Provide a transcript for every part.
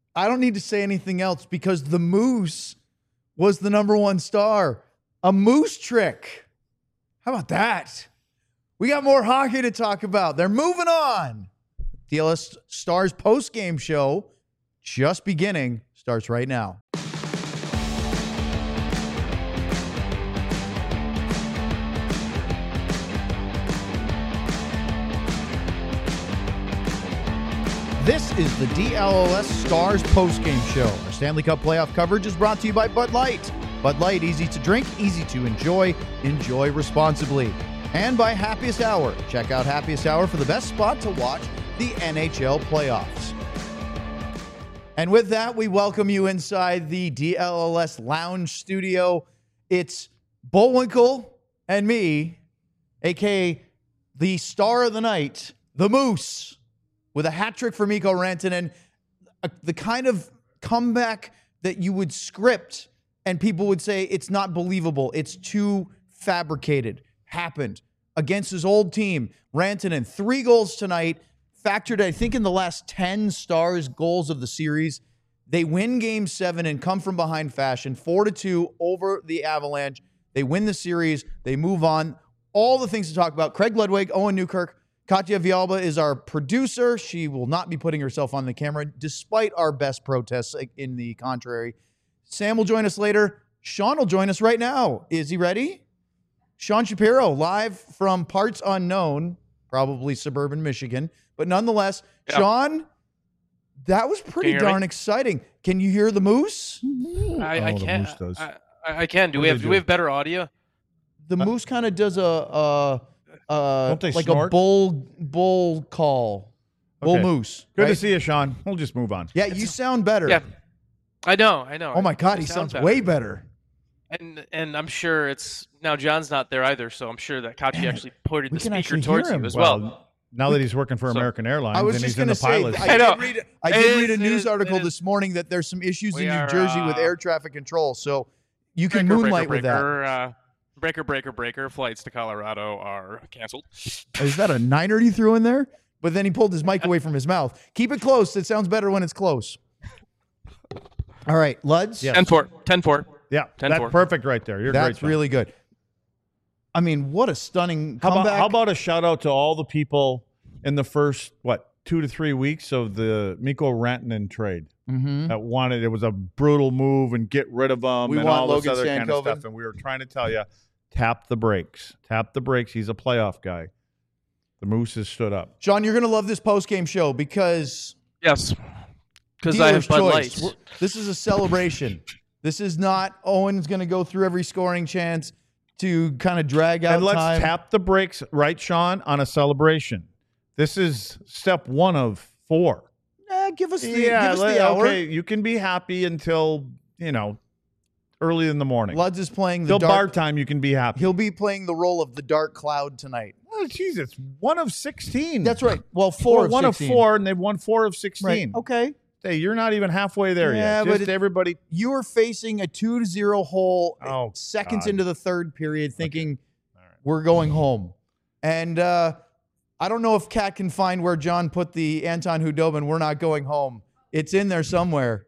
I don't need to say anything else because the Moose was the number one star. A moose trick. How about that? We got more hockey to talk about. They're moving on. DLS Stars post-game show, just beginning, starts right now. This is the DLS Stars postgame show. Our Stanley Cup playoff coverage is brought to you by Bud Light. Bud Light, easy to drink, easy to enjoy. Enjoy responsibly. And by Happiest Hour. Check out Happiest Hour for the best spot to watch the NHL playoffs. And with that, we welcome you inside the DLS Lounge Studio. It's Bullwinkle and me, a.k.a. the star of the night, the Moose, with a hat trick for Mikko Rantanen, the kind of comeback that you would script and people would say it's not believable. It's too fabricated. Happened against his old team. Rantanen, 3 goals tonight, factored, I think, in the last 10 Stars goals of the series. They win Game 7 and come from behind fashion, 4-2 over the Avalanche. They win the series. They move on. All the things to talk about. Craig Ludwig, Owen Newkirk, Katya Vialba is our producer. She will not be putting herself on the camera, despite our best protests in the contrary. Sam will join us later. Sean will join us right now. Is he ready? Sean Shapiro, live from parts unknown, probably suburban Michigan. But nonetheless, yeah. Sean, that was pretty darn exciting. Can you hear the Moose? I can. The Moose does. I can. Do we have better audio? The Moose kind of does don't they like snort? a bull call. Bull moose. Good right? to see you, Sean. We'll just move on. Yeah, you sound better. Yeah, I know. Oh my God, he sounds way better. And I'm sure it's now John's not there either, so I'm sure that Katya actually pointed the speaker towards him you as well. Now that he's working for American Airlines I was and just he's in the say, pilot. I did read a news article this morning that there's some issues in New Jersey with air traffic control, so you can moonlight with that. Breaker. Flights to Colorado are canceled. Is that a niner he threw in there? But then he pulled his mic away from his mouth. Keep it close. It sounds better when it's close. All right, Luds. Yes. 10-4. Yeah, 10-4. That's perfect right there. You're That's great, really good. I mean, what a stunning comeback. How about a shout out to all the people in the first, 2 to 3 weeks of the Mikko Rantanen trade that wanted, it was a brutal move and get rid of him and all this other kind of stuff. And we were trying to tell you, tap the brakes. Tap the brakes. He's a playoff guy. The Moose has stood up. Sean, you're going to love this post-game show because... Yes, because I have Bud Light. This is a celebration. This is not Owen's going to go through every scoring chance to kind of drag out time. And let's time. tap the brakes, right, Sean, on a celebration. This is step 1 of 4. Give us the hour. Okay, you can be happy until, early in the morning. Luds is playing the bar time, you can be happy. He'll be playing the role of the Dark Cloud tonight. Oh, jeez, it's 1 of 16. That's right. Well, 4 of 1 16. of 4, and they've won 4 of 16. Right. Okay. Hey, you're not even halfway there yet. Just everybody. You were facing a 2-0 hole seconds into the third period, thinking we're going home. And I don't know if Kat can find where John put the Anton Hudobin, we're not going home. It's in there somewhere.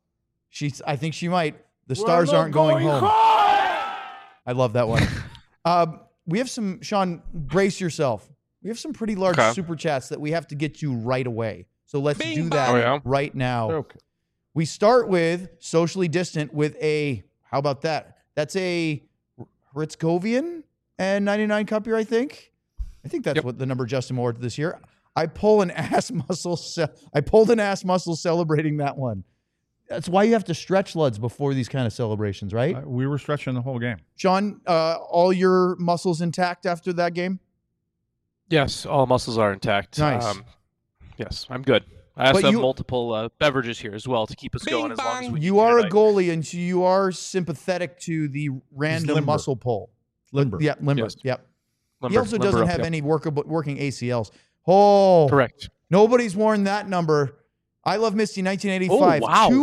I think she might. The Stars aren't going home. I love that one. We have some, Sean, brace yourself. We have some pretty large super chats that we have to get to right away. So let's do that right now. Okay. We start with socially distant with how about that? That's a Ritzkovian and 99 cup year, I think. I think that's what the number Justin Moore this year. I pulled an ass muscle celebrating that one. That's why you have to stretch, Luds, before these kind of celebrations, right? We were stretching the whole game. Sean, all your muscles intact after that game? Yes, all muscles are intact. Nice. Yes, I'm good. I also have multiple beverages here as well to keep us going as long as we You are a goalie, and so you are sympathetic to the random muscle pull. Limber. Yeah, limber. Yes. Yep. Limber, He also doesn't have any working ACLs. Oh. Correct. Nobody's worn that number. I Love Misty, 1985. Oh, wow.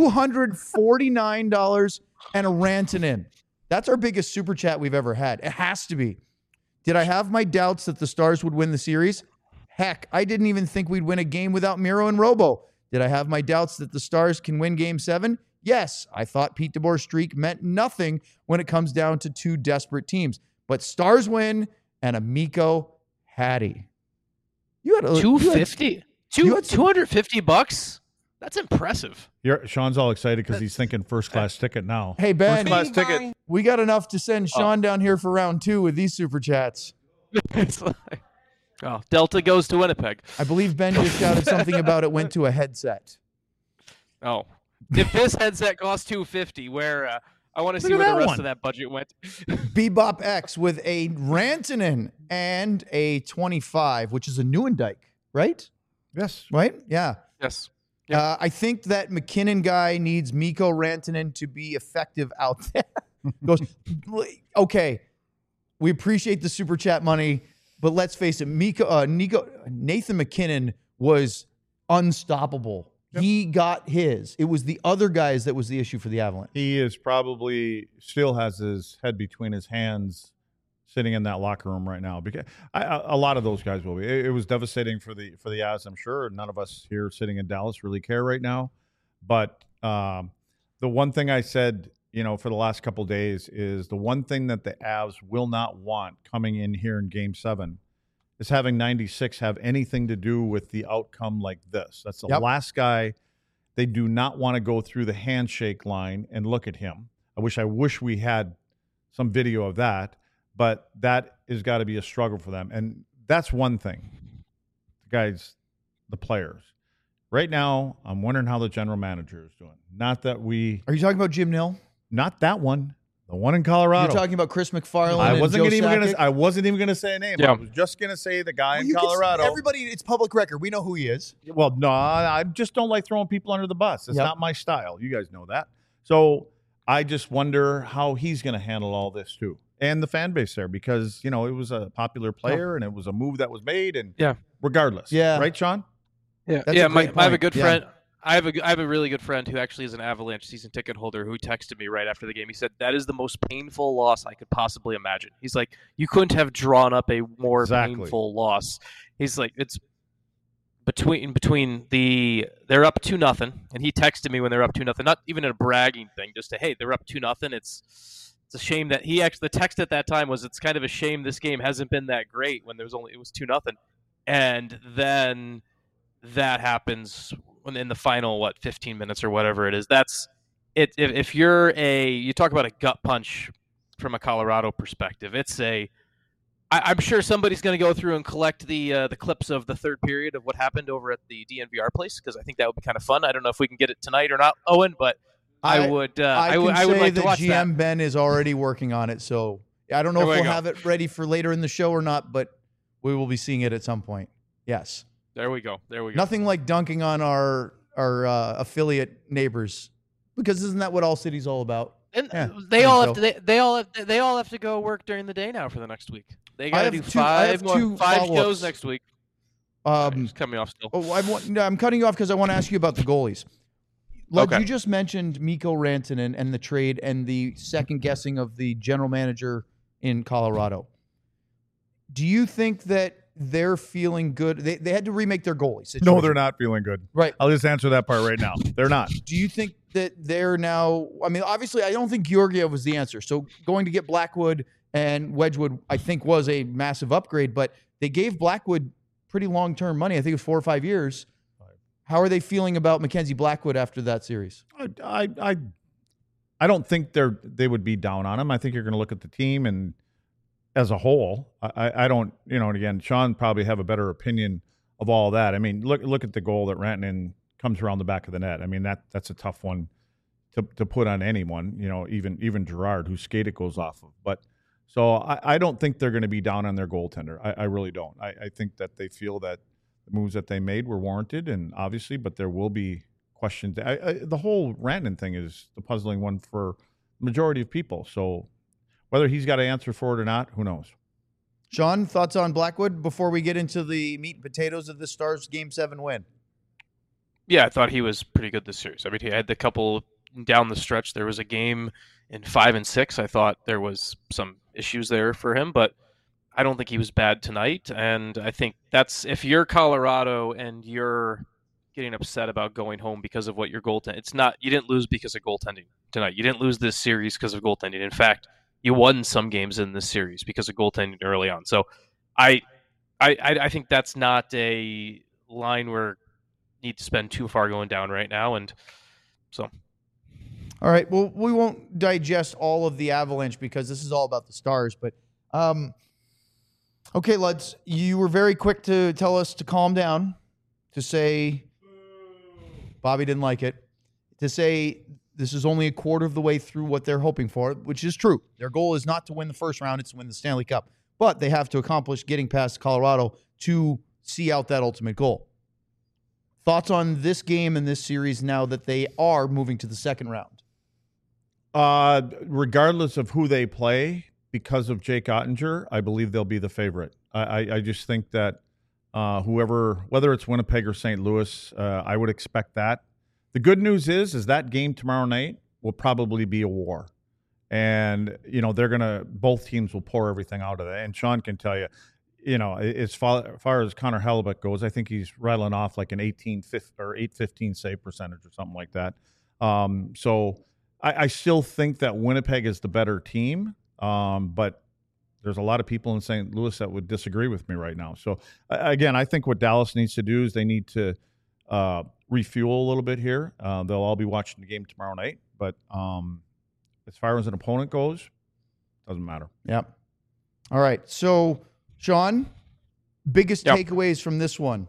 $249 and a Rantanen. That's our biggest super chat we've ever had. It has to be. Did I have my doubts that the Stars would win the series? Heck, I didn't even think we'd win a game without Miro and Robo. Did I have my doubts that the Stars can win Game 7? Yes. I thought Pete DeBoer's streak meant nothing when it comes down to two desperate teams. But Stars win and a Mikko Hattie. You had $250. $250? That's impressive. Sean's all excited because he's thinking first-class ticket now. Hey, Ben. First-class ticket. We got enough to send Sean down here for round 2 with these super chats. It's like, Delta goes to Winnipeg. I believe Ben just shouted something about it went to a headset. Oh. If this headset costs $250, where I want to see where the rest of that budget went. Bebop X with a Rantanen and a 25, which is a Nieuwendyk, right? Yes. Right? Yeah. Yes. Yep. I think that McKinnon guy needs Mikko Rantanen to be effective out there. Goes, okay, we appreciate the super chat money, but let's face it, Nathan McKinnon was unstoppable. Yep. He got his. It was the other guys that was the issue for the Avalanche. He is probably still has his head between his hands sitting in that locker room right now, because a lot of those guys will be. It was devastating for the Avs, I'm sure. None of us here sitting in Dallas really care right now. But the one thing I said, for the last couple of days is the one thing that the Avs will not want coming in here in Game 7 is having 96 have anything to do with the outcome like this. That's the last guy. They do not want to go through the handshake line and look at him. I wish we had some video of that. But that has got to be a struggle for them. And that's one thing. Guys, the players. Right now, I'm wondering how the general manager is doing. Not that we... Are you talking about Jim Nill? Not that one. The one in Colorado. You're talking about Chris McFarland I wasn't even going to say a name. Yeah. I was just going to say the guy in Colorado. Everybody, it's public record. We know who he is. Well, no, I just don't like throwing people under the bus. It's not my style. You guys know that. So I just wonder how he's going to handle all this, too. And the fan base there, because it was a popular player and it was a move that was made, and regardless, right, Sean? Yeah, I have a good friend. I have a really good friend who actually is an Avalanche season ticket holder who texted me right after the game. He said that is the most painful loss I could possibly imagine. He's like, you couldn't have drawn up a more painful loss. He's like, it's between they're up 2-0, and he texted me when they're up 2-0, not even a bragging thing, just to hey, they're up 2-0. It's a shame that the text at that time was, it's kind of a shame this game hasn't been that great when it was 2-0. And then that happens in the final, 15 minutes or whatever it is. That's it. If you talk about a gut punch from a Colorado perspective, I'm sure somebody's going to go through and collect the clips of the third period of what happened over at the DNVR place, because I think that would be kind of fun. I don't know if we can get it tonight or not, Owen, but I would like to watch GM that. Ben is already working on it, so I don't know if we'll have it ready for later in the show or not, but we will be seeing it at some point. Yes. There we go. Nothing like dunking on our affiliate neighbors, because isn't that what All City's all about? And they all have to go work during the day now for the next week. They got to do five shows next week. Just cut me off still. I'm cutting you off because I want to ask you about the goalies. You just mentioned Mikko Rantanen and the trade and the second guessing of the general manager in Colorado. Do you think that they're feeling good? They had to remake their goalie situation. No, they're not feeling good. Right. I'll just answer that part right now. They're not. Do you think that they're now... I mean, obviously, I don't think Georgiev was the answer. So going to get Blackwood and Wedgwood, I think, was a massive upgrade. But they gave Blackwood pretty long-term money. I think it was 4 or 5 years. How are they feeling about Mackenzie Blackwood after that series? I don't think they would be down on him. I think you're going to look at the team and as a whole. I don't, and again, Sean probably have a better opinion of all that. I mean, look at the goal that Rantanen comes around the back of the net. I mean, that's a tough one to put on anyone, even Gerard, whose skate it goes off of. But so I don't think they're going to be down on their goaltender. I really don't. I think that they feel that the moves that they made were warranted, and obviously, but there will be questions. The whole Rantanen thing is the puzzling one for the majority of people. So whether he's got to answer for it or not, who knows? Sean, thoughts on Blackwood before we get into the meat and potatoes of the Stars Game 7 win? Yeah, I thought he was pretty good this series. I mean, he had the couple down the stretch. There was a game in 5 and 6. I thought there was some issues there for him, but I don't think he was bad tonight. And I think that's, if you're Colorado and you're getting upset about going home because of what your goaltending. It's not. You didn't lose because of goaltending tonight. You didn't lose this series because of goaltending. In fact, you won some games in this series because of goaltending early on. So, I think that's not a line where you need to spend too far going down right now, and so. All right. Well, we won't digest all of the Avalanche because this is all about the Stars. But, okay, Luds, you were very quick to tell us to calm down, to say Bobby didn't like it, to say this is only a quarter of the way through what they're hoping for, which is true. Their goal is not to win the first round, it's to win the Stanley Cup. But they have to accomplish getting past Colorado to see out that ultimate goal. Thoughts on this game and this series now that they are moving to the second round? Regardless of who they play, because of Jake Oettinger, I believe they'll be the favorite. I just think that whoever, whether it's Winnipeg or St. Louis, I would expect that. The good news is that game tomorrow night will probably be a war. And, both teams will pour everything out of that. And Sean can tell you, as far as Connor Hellebuyck goes, I think he's rattling off like an 815 save percentage or something like that. So I still think that Winnipeg is the better team, but there's a lot of people in St. Louis that would disagree with me right now. So, again, I think what Dallas needs to do is they need to refuel a little bit here. They'll all be watching the game tomorrow night. But as far as an opponent goes, doesn't matter. Yep. All right. So, Sean, biggest takeaways from this one?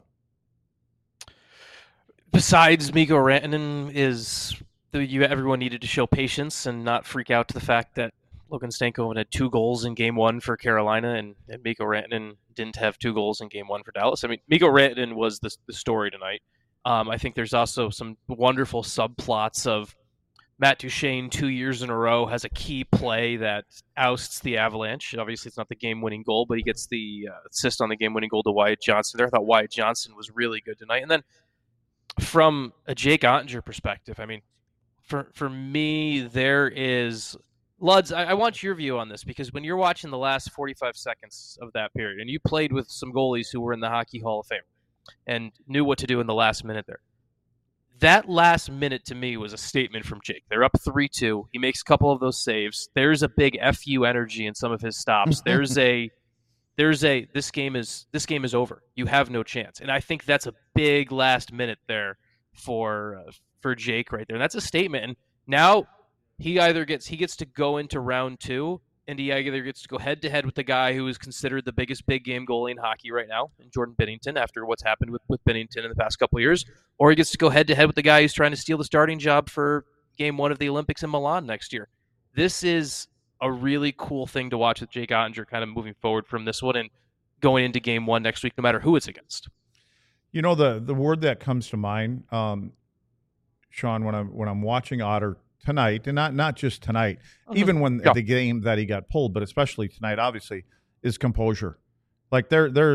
Besides Mikko Rantanen is everyone needed to show patience and not freak out to the fact that Logan Stankoven had 2 goals in Game 1 for Carolina and Mikko Rantanen didn't have 2 goals in Game 1 for Dallas. I mean, Mikko Rantanen was the story tonight. I think there's also some wonderful subplots of Matt Duchene 2 years in a row has a key play that ousts the Avalanche. Obviously, it's not the game-winning goal, but he gets the assist on the game-winning goal to Wyatt Johnston there. I thought Wyatt Johnston was really good tonight. And then from a Jake Oettinger perspective, I mean, for me, there is... Luds, I want your view on this, because when you're watching the last 45 seconds of that period, and you played with some goalies who were in the Hockey Hall of Fame and knew what to do in the last minute there, that last minute to me was a statement from Jake. They're up 3-2. He makes a couple of those saves. There's a big FU energy in some of his stops. This game is over. You have no chance. And I think that's a big last minute there for Jake right there. And that's a statement. And now he gets to go into round 2, and he either gets to go head-to-head with the guy who is considered the biggest big game goalie in hockey right now, in Jordan Binnington, after what's happened with Binnington in the past couple of years, or he gets to go head-to-head with the guy who's trying to steal the starting job for Game 1 of the Olympics in Milan next year. This is a really cool thing to watch with Jake Oettinger kind of moving forward from this one and going into Game 1 next week, no matter who it's against. The word that comes to mind, Sean, when I'm watching Otter tonight, and not just tonight, even when the game that he got pulled, but especially tonight, obviously, is composure. Like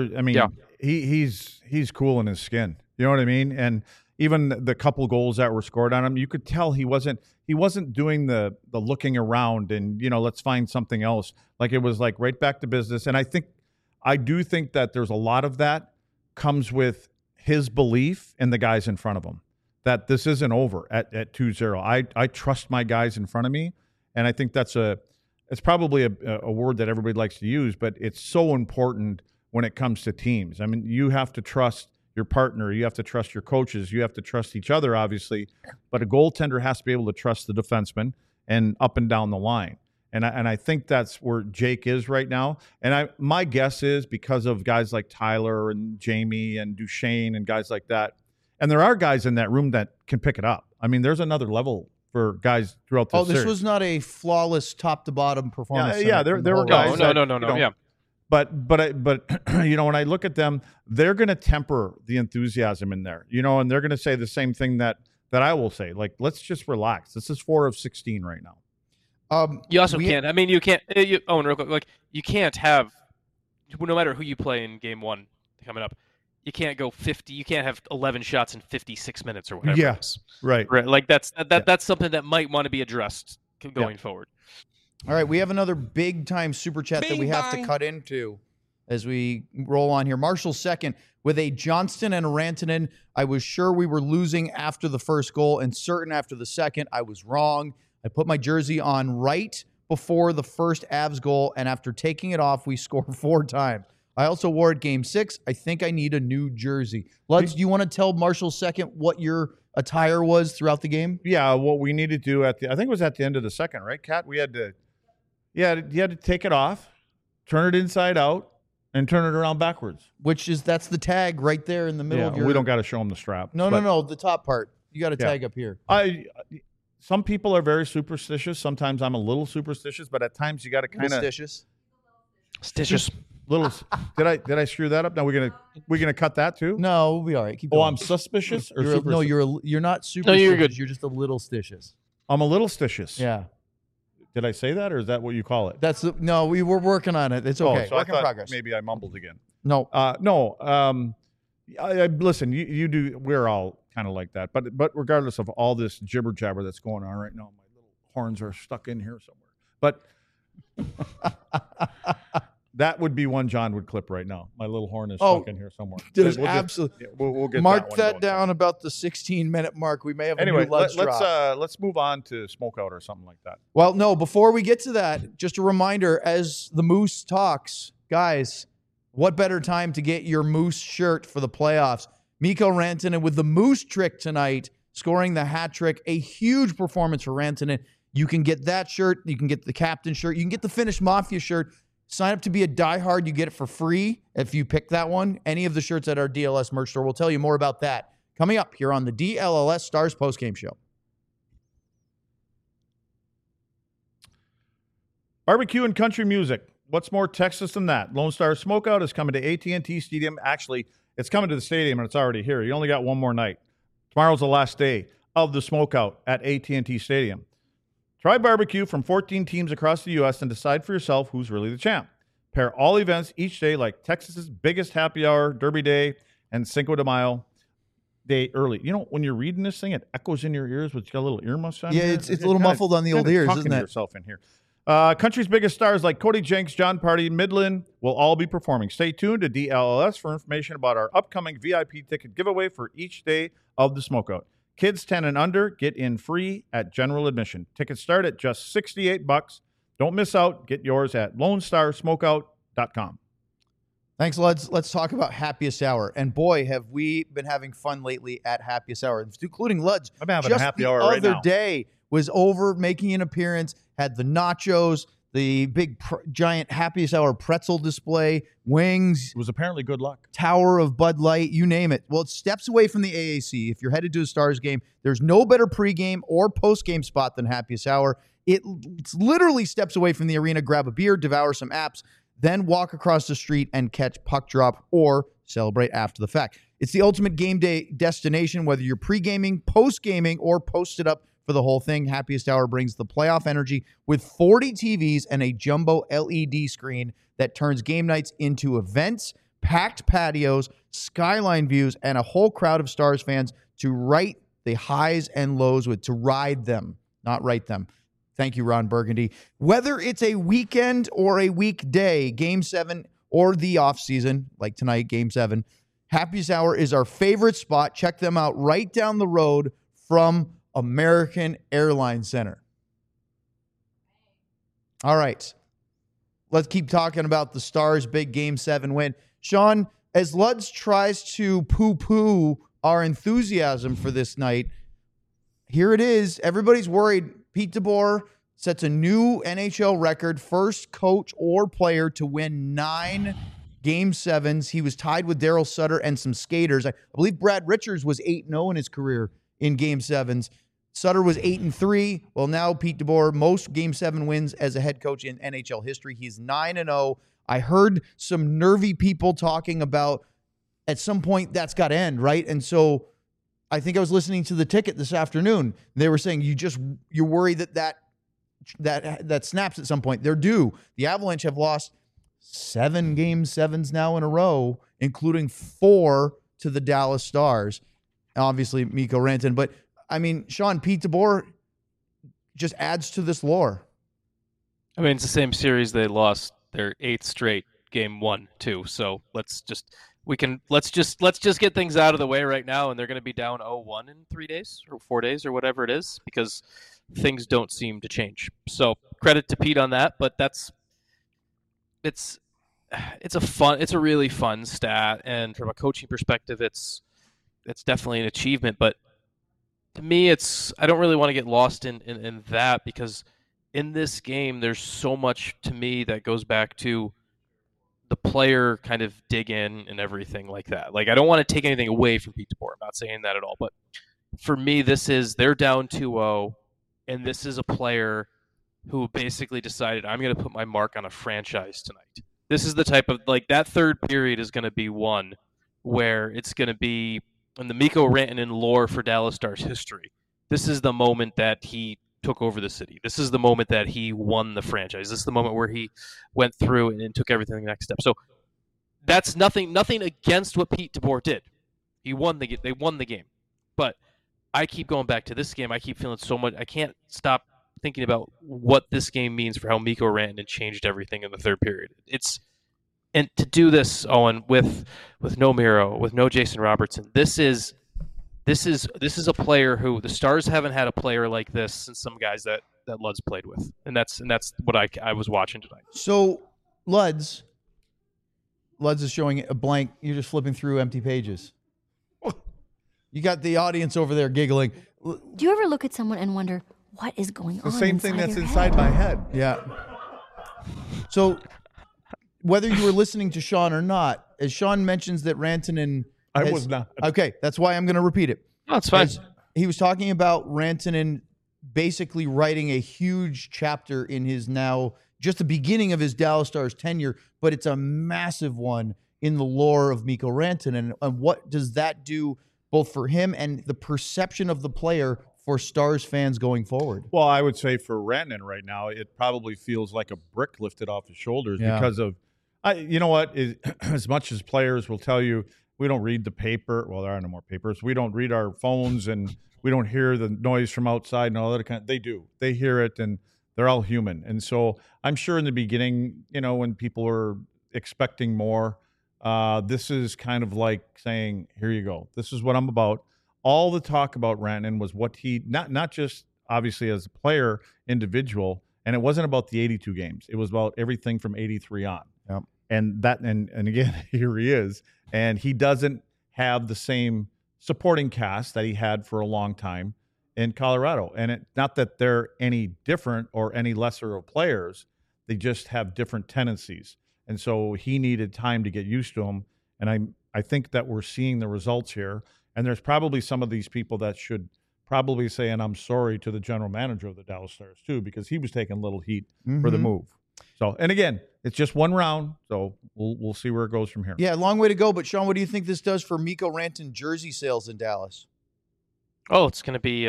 he's cool in his skin. You know what I mean? And even the couple goals that were scored on him, you could tell he wasn't doing the looking around and, let's find something else. Like, it was like right back to business. And I do think that there's a lot of that comes with his belief in the guys in front of him, that this isn't over at 2-0. I trust my guys in front of me, and I think it's probably a word that everybody likes to use, but it's so important when it comes to teams. I mean, you have to trust your partner, you have to trust your coaches, you have to trust each other, obviously, but a goaltender has to be able to trust the defenseman and up and down the line. And I think that's where Jake is right now. And my guess is because of guys like Tyler and Jamie and Duchene and guys like that. And there are guys in that room that can pick it up. I mean, there's another level for guys throughout the series. This was not a flawless top-to-bottom performance. Yeah, there were guys. No. Yeah. But when I look at them, they're going to temper the enthusiasm in there. And they're going to say the same thing that I will say. Like, let's just relax. This is 4 of 16 right now. You also can't. I mean, you can't. Owen, real quick. Like, you can't have, no matter who you play in Game 1 coming up, you can't go 50. You can't have 11 shots in 56 minutes or whatever. Yeah, it is. Right. Like that's something that might want to be addressed going forward. All right, we have another big time super chat that we have to cut into as we roll on here. Marshall second. with a Johnston and a Rantanen. I was sure we were losing after the first goal and certain after the second. I was wrong. I put my jersey on right before the first Avs goal, and after taking it off, we scored 4 times. I also wore it Game 6. I think I need a new jersey. Luds, do you want to tell Marshall second what your attire was throughout the game? Yeah, what we needed to do I think it was at the end of the second, right, Kat? We had to, you had to take it off, turn it inside out, and turn it around backwards. That's the tag right there in the middle of your... we don't got to show them the strap. No, the top part. You got a tag up here. Some people are very superstitious. Sometimes I'm a little superstitious, but at times you got to kind of... Stitious. Little. Did I screw that up? Now we're gonna cut that too. No, we'll be all right. Keep going. I'm suspicious. Or you're not superstitious. No, you're good. You're just a little stitious. I'm a little stitious. Yeah. Did I say that, or is that what you call it? We were working on it. It's okay. So Work in progress. Maybe I mumbled again. No. Listen, you do. We're all kind of like that, but regardless of all this jibber jabber that's going on right now, my little horns are stuck in here somewhere. But that would be one John would clip right now. My little horn is stuck in here somewhere. There's absolutely. We'll get mark that down about the 16-minute mark. We may have a new Luds drop. Let's move on to Smokeout or something like that. Well, no. Before we get to that, just a reminder: as the Moose talks, guys, what better time to get your Moose shirt for the playoffs? Mikko Rantanen with the Moose trick tonight, scoring the hat trick. A huge performance for Rantanen. You can get that shirt. You can get the captain shirt. You can get the Finnish Mafia shirt. Sign up to be a diehard. You get it for free if you pick that one. Any of the shirts at our DLS merch store. We'll tell you more about that coming up here on the DLLS Stars postgame show. Barbecue and country music. What's more Texas than that? Lone Star Smokeout is coming to AT&T Stadium. Actually, it's coming to the stadium, and it's already here. You only got one more night. Tomorrow's the last day of the Smokeout at AT&T Stadium. Try barbecue from 14 teams across the U.S. and decide for yourself who's really the champ. Pair all events each day like Texas's biggest happy hour, Derby Day, and Cinco de Mayo Day early. You know, when you're reading this thing, it echoes in your ears, but you got a little earmuffs on. Yeah, it's a little muffled on the old ears, isn't it? Yourself in here. Country's biggest stars like Cody Jenks, John Party, Midland will all be performing. Stay tuned to DLLS for information about our upcoming VIP ticket giveaway for each day of the Smokeout. Kids 10 and under get in free at general admission. Tickets start at just $68. Don't miss out. Get yours at LoneStarSmokeout.com. Thanks, Luds. Let's talk about Happiest Hour. And boy, have we been having fun lately at Happiest Hour, including Luds. I'm having a happy hour right now. The other day was over making an appearance, had the nachos, the big giant Happiest Hour pretzel display, wings. It was apparently good luck. Tower of Bud Light, you name it. Well, it's steps away from the AAC. If you're headed to a Stars game, there's no better pregame or postgame spot than Happiest Hour. It's literally steps away from the arena. Grab a beer, devour some apps, then walk across the street and catch puck drop or celebrate after the fact. It's the ultimate game day destination, whether you're pre-gaming, post-gaming, or posted up for the whole thing. Happiest Hour brings the playoff energy with 40 TVs and a jumbo LED screen that turns game nights into events, packed patios, skyline views, and a whole crowd of Stars fans to write the highs and lows with, to ride them, not write them. Thank you, Ron Burgundy. Whether it's a weekend or a weekday, Game 7 or the offseason, like tonight, Game 7, Happiest Hour is our favorite spot. Check them out right down the road from American Airlines Center. All right. Let's keep talking about the Stars' big Game 7 win. Sean, as Luds tries to poo-poo our enthusiasm for this night, here it is. Everybody's worried. Pete DeBoer sets a new NHL record, first coach or player to win 9 Game 7s. He was tied with Daryl Sutter and some skaters. I believe Brad Richards was 8-0 in his career in Game 7s. Sutter was 8-3. Well, now Pete DeBoer, most Game 7 wins as a head coach in NHL history. He's 9-0. I heard some nervy people talking about at some point that's got to end, right? And so I think I was listening to The Ticket this afternoon. They were saying you're worried that snaps at some point. They're due. The Avalanche have lost 7 Game 7s now in a row, including 4 to the Dallas Stars. Obviously, Mikko Rantanen. But, I mean, Sean, Pete DeBoer just adds to this lore. I mean, it's the same series they lost their 8th straight Game 1, too. So let's just let's just get things out of the way right now, and they're going to be down 0-1 in 3 days or 4 days or whatever it is, because things don't seem to change. So credit to Pete on that, but it's a really fun stat, and from a coaching perspective, it's definitely an achievement. But to me, I don't really want to get lost in that, because in this game, there's so much to me that goes back to the player kind of dig in and everything like that. Like, I don't want to take anything away from Pete DeBoer. I'm not saying that at all. But for me, they're down 2-0, and this is a player who basically decided, I'm going to put my mark on a franchise tonight. This is the type of, like, that third period is going to be one where it's going to be in the Mikko Rantanen lore for Dallas Stars history. This is the moment that he took over the city. This is the moment that he won the franchise. This is the moment where he went through and took everything to the next step. So that's nothing against what Pete DeBoer did. They won the game. But I keep going back to this game. I keep feeling so much. I can't stop thinking about what this game means for how Mikko Rantanen changed everything in the third period. And to do this, Owen, with no Miro, with no Jason Robertson, this is a player who the Stars haven't had a player like this since some guys that Luds played with, and that's what I was watching tonight. So Luds is showing a blank. You're just flipping through empty pages. You got the audience over there giggling. Do you ever look at someone and wonder what is going on? The same thing that's inside my head. Yeah. So whether you were listening to Sean or not, as Sean mentions that Rantanen. I was not. Okay, that's why I'm going to repeat it. No, it's fine. He was talking about Rantanen basically writing a huge chapter in his now just the beginning of his Dallas Stars tenure, but it's a massive one in the lore of Mikko Rantanen. And what does that do both for him and the perception of the player for Stars fans going forward? Well, I would say for Rantanen right now, it probably feels like a brick lifted off his shoulders because of, you know what, as much as players will tell you, we don't read the paper. Well, there are no more papers. We don't read our phones, and we don't hear the noise from outside and all that kind. They do. They hear it, and they're all human. And so I'm sure in the beginning, when people were expecting more, this is kind of like saying, here you go. This is what I'm about. All the talk about Rantanen was what he, not just obviously as a player, individual, and it wasn't about the 82 games. It was about everything from 83 on. Yep. And again, here he is. And he doesn't have the same supporting cast that he had for a long time in Colorado. And not that they're any different or any lesser of players. They just have different tendencies. And so he needed time to get used to them. And I think that we're seeing the results here. And there's probably some of these people that should probably say, and I'm sorry to the general manager of the Dallas Stars too, because he was taking a little heat for the move. So, and again, it's just one round, so we'll see where it goes from here. Yeah, long way to go. But Sean, what do you think this does for Mikko Rantanen jersey sales in Dallas? Oh, it's going to be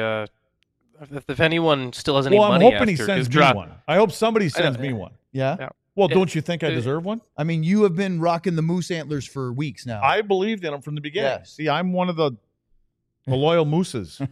if anyone still has any money. Well, I'm hoping he sends me one. I hope somebody sends me one. Yeah. Well, don't you think I deserve one? I mean, you have been rocking the moose antlers for weeks now. I believed in them from the beginning. Yes. See, I'm one of the loyal mooses.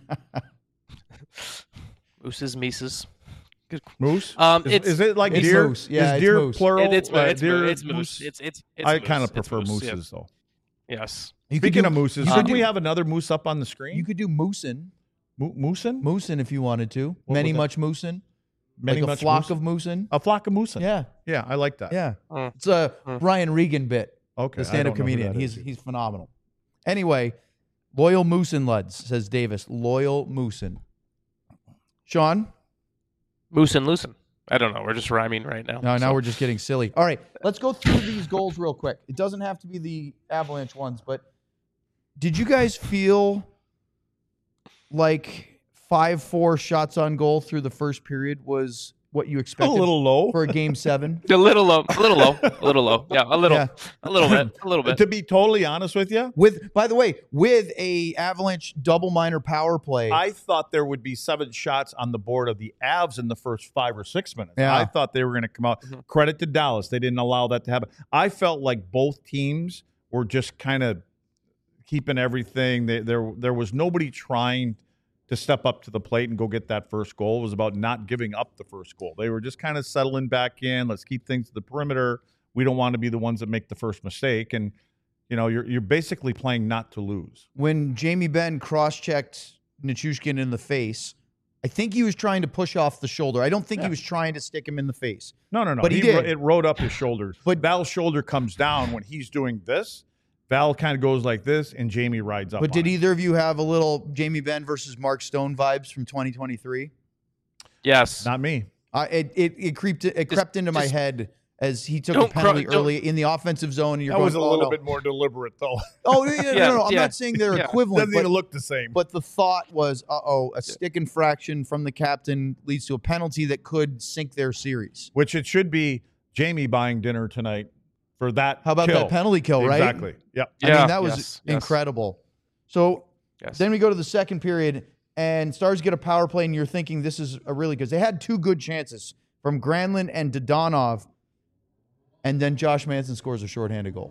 Mooses, Mises. Good. Moose? Is it like it's deer? Moose. Yeah, is deer moose. plural? It's moose. It's I kind of prefer mooses, though. Yes. Speaking of mooses, shouldn't we have another moose up on the screen? You could do moosin'. Moosin'? Moosin' if you wanted to. Much moosin'. Like a flock of moosin'. A flock of moosin'. Yeah. Yeah, I like that. Yeah. It's a Brian Regan bit. Okay. The stand-up comedian. He's phenomenal. Anyway, loyal moosin' Luds, says Davis. Loyal moosin'. Sean? Moosin' loosin'. I don't know. We're just rhyming right now. No, now we're just getting silly. All right, let's go through these goals real quick. It doesn't have to be the Avalanche ones, but did you guys feel like 5-4 shots on goal through the first period was what you expected? A little low for a game 7. A little low. Yeah, a little bit. To be totally honest with you, by the way, with a Avalanche double minor power play, I thought there would be 7 shots on the board of the Avs in the first 5 or 6 minutes. Yeah. I thought they were going to come out. Mm-hmm. Credit to Dallas, they didn't allow that to happen. I felt like both teams were just kind of keeping everything. There was nobody trying to step up to the plate and go get that first goal. It was about not giving up the first goal. They were just kind of settling back in. Let's keep things to the perimeter. We don't want to be the ones that make the first mistake. And, You're basically playing not to lose. When Jamie Benn cross-checked Nichushkin in the face, I think he was trying to push off the shoulder. I don't think he was trying to stick him in the face. No. But he did. It rode up his shoulders. But Val's shoulder comes down when he's doing this. Val kind of goes like this, and Jamie rides up. But did either of you have a little Jamie Benn versus Mark Stone vibes from 2023? Yes. Not me. It crept into my head as he took a penalty early in the offensive zone. And that was a little bit more deliberate, though. Oh, no. I'm not saying they're equivalent. Doesn't even look the same. But the thought was, a stick infraction from the captain leads to a penalty that could sink their series. Which it should be Jamie buying dinner tonight for that. How about that penalty kill, right? Exactly. Yep. I mean, that was incredible. So then we go to the second period, and Stars get a power play, and you're thinking this is a really good. They had two good chances from Granlund and Dodonov, and then Josh Manson scores a shorthanded goal.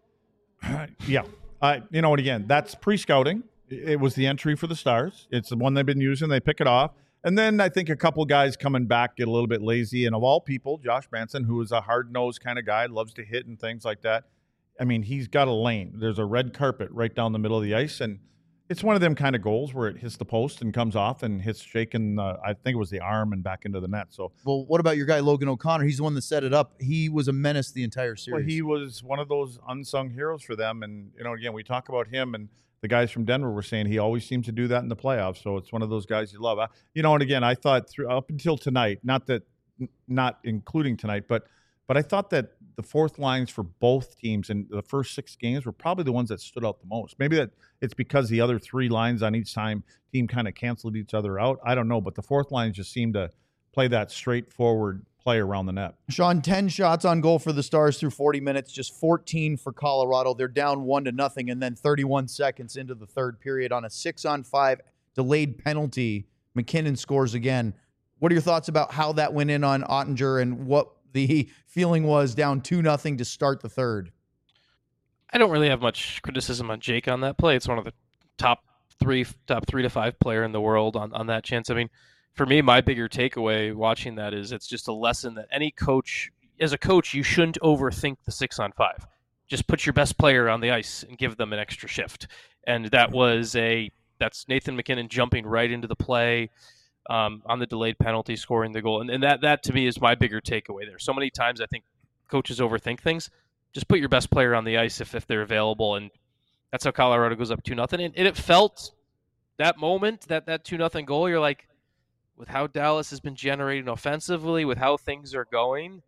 Yeah. And again, that's pre-scouting. It was the entry for the Stars. It's the one they've been using. They pick it off. And then I think a couple guys coming back get a little bit lazy. And of all people, Josh Manson, who is a hard-nosed kind of guy, loves to hit and things like that. I mean, he's got a lane. There's a red carpet right down the middle of the ice. And it's one of them kind of goals where it hits the post and comes off and hits shaking, I think it was the arm and back into the net. So, well, what about your guy, Logan O'Connor? He's the one that set it up. He was a menace the entire series. Well, he was one of those unsung heroes for them. And, again, we talk about him, and the guys from Denver were saying he always seems to do that in the playoffs. So it's one of those guys you love. And again, I thought up until tonight, not including tonight, but I thought that the fourth lines for both teams in the first 6 games were probably the ones that stood out the most. Maybe that it's because the other 3 lines on each team kind of canceled each other out. I don't know, but the fourth line just seemed to play that straightforward play around the net. Sean, 10 shots on goal for the Stars through 40 minutes, just 14 for Colorado. They're down 1-0, and then 31 seconds into the third period on a 6-on-5 delayed penalty, McKinnon scores again. What are your thoughts about how that went in on Ottinger and what the feeling was down 2-0 to start the third? I don't really have much criticism on Jake on that play. It's one of the top 3 to 5 player in the world on that chance. I mean, for me, my bigger takeaway watching that is it's just a lesson that any coach, as a coach, you shouldn't overthink the 6-on-5. Just put your best player on the ice and give them an extra shift. And that's Nathan McKinnon jumping right into the play on the delayed penalty, scoring the goal. And that to me is my bigger takeaway there. So many times I think coaches overthink things. Just put your best player on the ice if they're available. And that's how Colorado goes up 2-0. And it felt that moment, that 2-0 goal, you're like, with how Dallas has been generating offensively, with how things are going,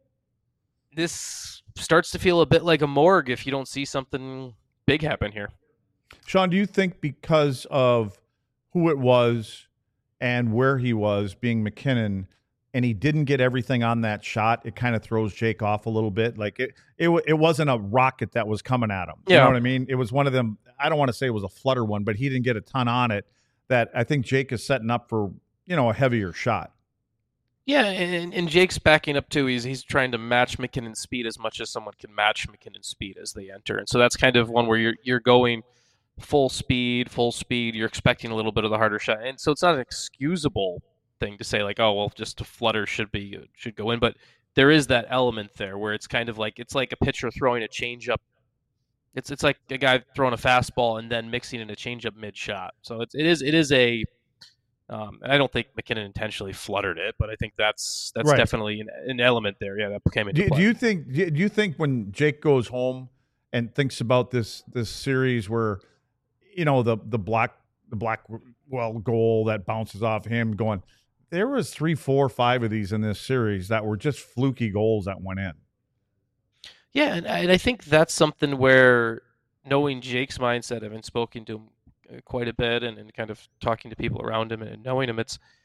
this starts to feel a bit like a morgue if you don't see something big happen here. Sean, do you think because of who it was and where he was, being McKinnon, and he didn't get everything on that shot, it kind of throws Jake off a little bit? Like it wasn't a rocket that was coming at him. You know what I mean? It was one of them. I don't want to say it was a flutter one, but he didn't get a ton on it that I think Jake is setting up for, a heavier shot. Yeah, and Jake's backing up too. He's trying to match McKinnon's speed as much as someone can match McKinnon's speed as they enter. And so that's kind of one where you're going full speed. You're expecting a little bit of the harder shot. And so it's not an excusable thing to say like, oh, well, just a flutter should go in. But there is that element there where it's kind of like, it's like a pitcher throwing a changeup. It's like a guy throwing a fastball and then mixing in a changeup mid-shot. So it is a I don't think McKinnon intentionally fluttered it, but I think that's right. Definitely an element there. Yeah, that came into play. Do you think when Jake goes home and thinks about this series where, the Blackwell goal that bounces off him, going, there was 3, 4, 5 of these in this series that were just fluky goals that went in. Yeah, and I think that's something where knowing Jake's mindset, having spoken to him quite a bit and kind of talking to people around him and knowing him,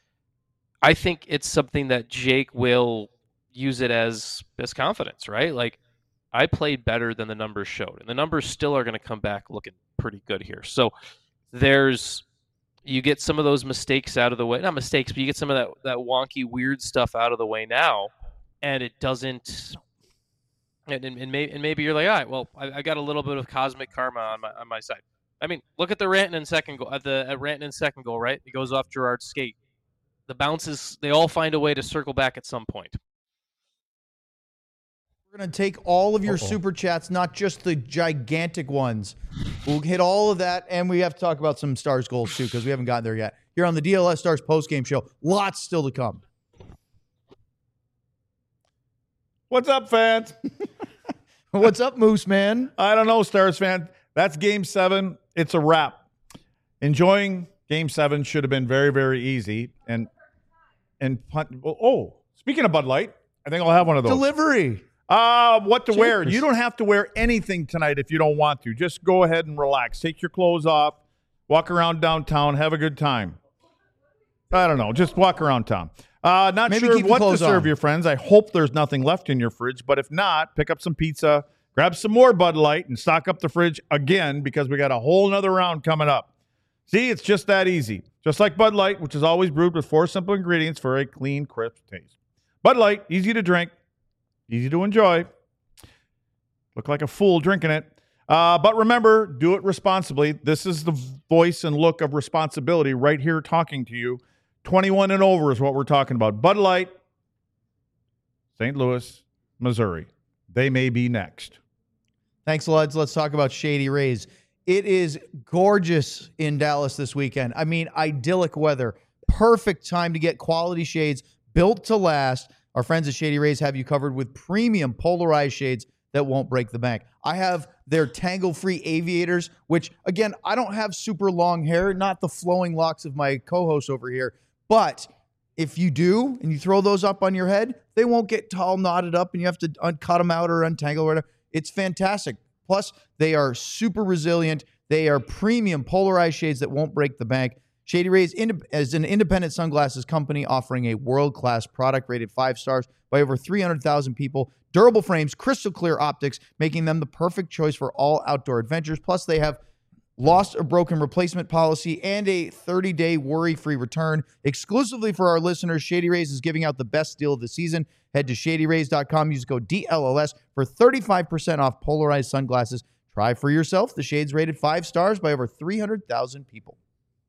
I think it's something that Jake will use it as confidence, right? Like, I played better than the numbers showed, and the numbers still are going to come back looking pretty good here. So you get some of those mistakes out of the way, not mistakes, but you get some of that wonky, weird stuff out of the way now, and it doesn't. And maybe you're like, all right, well, I got a little bit of cosmic karma on my side. I mean, look at the Rantanen second goal. At Rantanen's second goal, right? It goes off Gerard's skate. The bounces, they all find a way to circle back at some point. We're going to take all of your super chats, not just the gigantic ones. We'll hit all of that, and we have to talk about some Stars goals, too, because we haven't gotten there yet. Here on the DLS Stars postgame show, lots still to come. What's up, fans? What's up, Moose Man? I don't know, Stars fan. That's Game 7. It's a wrap. Enjoying Game 7 should have been very, very easy. Speaking of Bud Light, I think I'll have one of those. Delivery. What to wear? You don't have to wear anything tonight if you don't want to. Just go ahead and relax. Take your clothes off. Walk around downtown. Have a good time. I don't know. Just walk around town. Not Maybe sure what to serve on. your friends. I hope there's nothing left in your fridge. But if not, pick up some pizza, grab some more Bud Light, and stock up the fridge again because we got a whole nother round coming up. See, it's just that easy. Just like Bud Light, which is always brewed with 4 simple ingredients for a clean, crisp taste. Bud Light, easy to drink, easy to enjoy. Look like a fool drinking it. But remember, do it responsibly. This is the voice and look of responsibility right here talking to you. 21 and over is what we're talking about. Bud Light, St. Louis, Missouri. They may be next. Thanks, Luds. Let's talk about Shady Rays. It is gorgeous in Dallas this weekend. I mean, idyllic weather. Perfect time to get quality shades built to last. Our friends at Shady Rays have you covered with premium polarized shades that won't break the bank. I have their tangle-free aviators, which, again, I don't have super long hair, not the flowing locks of my co-host over here. But if you do, and you throw those up on your head, they won't get all knotted up, and you have to cut them out or untangle or whatever. It's fantastic. Plus, they are super resilient. They are premium polarized shades that won't break the bank. Shady Rays is an independent sunglasses company offering a world-class product rated 5 stars by over 300,000 people. Durable frames, crystal clear optics, making them the perfect choice for all outdoor adventures. Plus, they have lost or broken replacement policy and a 30-day worry-free return. Exclusively for our listeners, Shady Rays is giving out the best deal of the season. Head to shadyrays.com. Use code DLLS for 35% off polarized sunglasses. Try for yourself the shades rated 5 stars by over 300,000 people.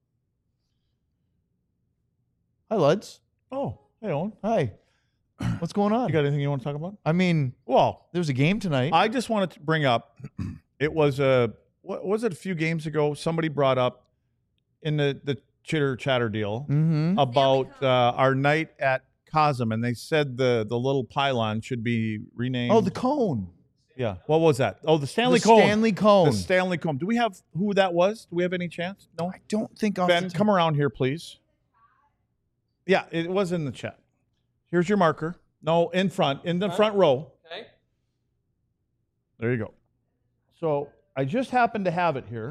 Hi, Luds. Oh, hey, Owen. Hi. What's going on? You got anything you want to talk about? I mean, well, there's a game tonight. I just wanted to bring up, it was what was it a few games ago? Somebody brought up in the chitter chatter deal about our night at Cosm, and they said the little pylon should be renamed. Oh, the cone. Yeah. What was that? Oh, the Stanley Cone. Stanley Cone. The Stanley Cone. Do we have who that was? Do we have any chance? No. I don't think. Ben, come around here, please. Yeah, it was in the chat. Here's your marker. No, in front, in the front row. Okay. There you go. So I just happen to have it here.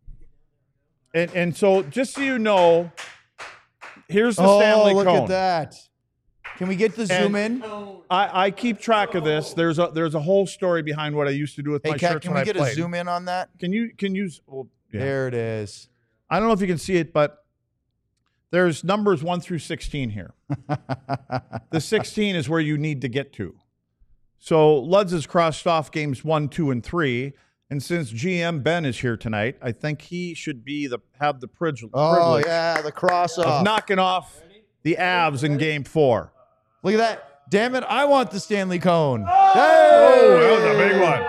And so just so you know, here's the Stanley Cone. Oh, look at that. Can we get the zoom in? I keep track of this. There's a whole story behind what I used to do with my shirts when I played. Can we get a zoom in on that? Can you well, yeah. There it is. I don't know if you can see it, but there's numbers 1 through 16 here. The 16 is where you need to get to. So Luds has crossed off games 1, 2, and 3. And since GM Ben is here tonight, I think he should have the privilege. Oh, yeah, the cross off. Of knocking off the Avs in game 4. Look at that. Damn it, I want the Stanley Cone. Hey! Oh, that was a big one.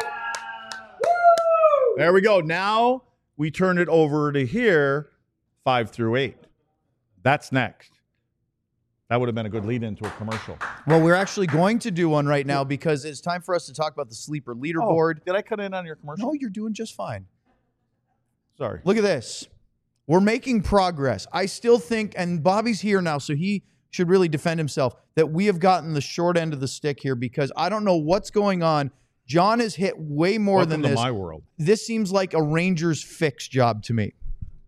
There we go. Now we turn it over to here, 5 through 8. That's next. That would have been a good lead into a commercial. Well, we're actually going to do one right now because it's time for us to talk about the sleeper leaderboard. Did I cut in on your commercial? No, you're doing just fine. Sorry. Look at this. We're making progress. I still think, and Bobby's here now, so he should really defend himself, that we have gotten the short end of the stick here because I don't know what's going on. John has hit way more than this. Welcome to my world. This seems like a Rangers fix job to me.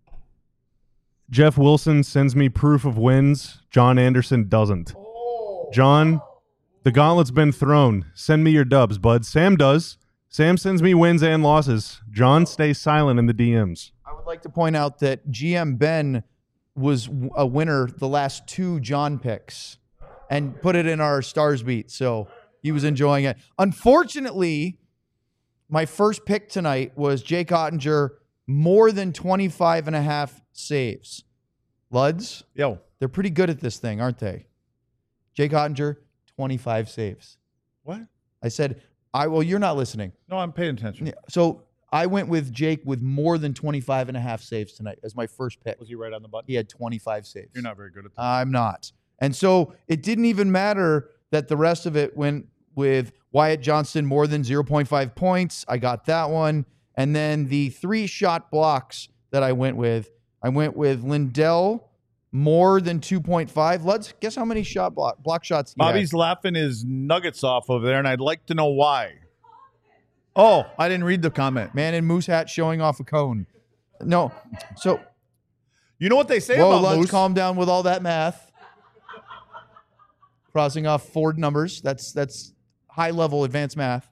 Jeff Wilson sends me proof of wins. John Anderson doesn't. John, the gauntlet's been thrown. Send me your dubs, bud. Sam does. Sam sends me wins and losses. John stays silent in the DMs. I would like to point out that GM Ben was a winner the last 2 John picks and put it in our Stars beat, so he was enjoying it. Unfortunately, my first pick tonight was Jake Ottinger, more than 25.5 saves. Luds, Yo, they're pretty good at this thing, aren't they? Jake Ottinger, 25 saves. what? I said Well, you're not listening. No, I'm paying attention. So I went with Jake with more than 25.5 saves tonight as my first pick. Was he right on the button? He had 25 saves. You're not very good at that. I'm not. And so it didn't even matter that the rest of it went with Wyatt Johnston more than 0.5 points. I got that one. And then the 3 shot blocks that I went with Lindell more than 2.5. Let's guess how many block shots he Bobby's had. laughing his nuggets off over there, and I'd like to know why. Oh, I didn't read the comment. Man in moose hat showing off a cone. No. So you know what they say about let's moose? Calm down with all that math. Crossing off 4 numbers. That's high level advanced math.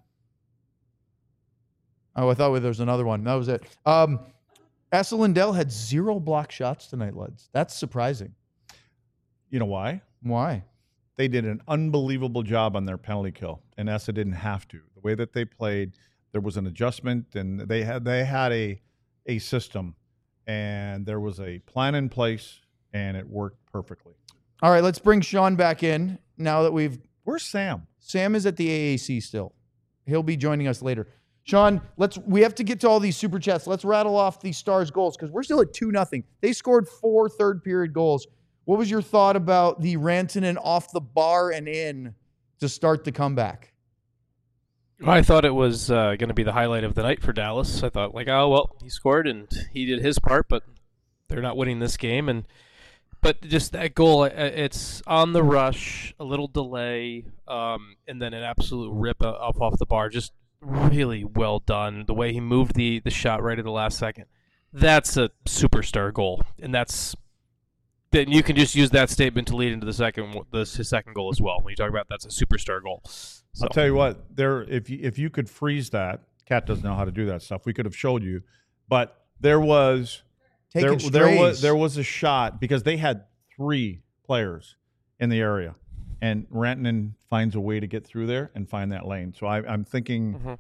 Oh, I thought there was another one. That was it. Asa Lindell had 0 block shots tonight, Luds. That's surprising. You know why? Why? They did an unbelievable job on their penalty kill, and Asa didn't have to. The way that they played, there was an adjustment, and they had a system, and there was a plan in place, and it worked perfectly. All right, let's bring Sean back in now that we've... Where's Sam? Sam is at the AAC still. He'll be joining us later. Sean, we have to get to all these super chats. Let's rattle off the Stars goals because we're still at 2-0. They scored 4 third-period goals. What was your thought about the Rantanen off the bar and in to start the comeback? I thought it was going to be the highlight of the night for Dallas. I thought, he scored and he did his part, but they're not winning this game. But just that goal, it's on the rush, a little delay, and then an absolute rip off the bar. Just really well done. The way he moved the shot right at the last second. That's a superstar goal, and then you can just use that statement to lead into his second goal as well. When you talk about that's a superstar goal. So. I'll tell you what, if you could freeze that, Kat doesn't know how to do that stuff. We could have showed you, but there was a shot because they had 3 players in the area, and Rantanen finds a way to get through there and find that lane. So I'm thinking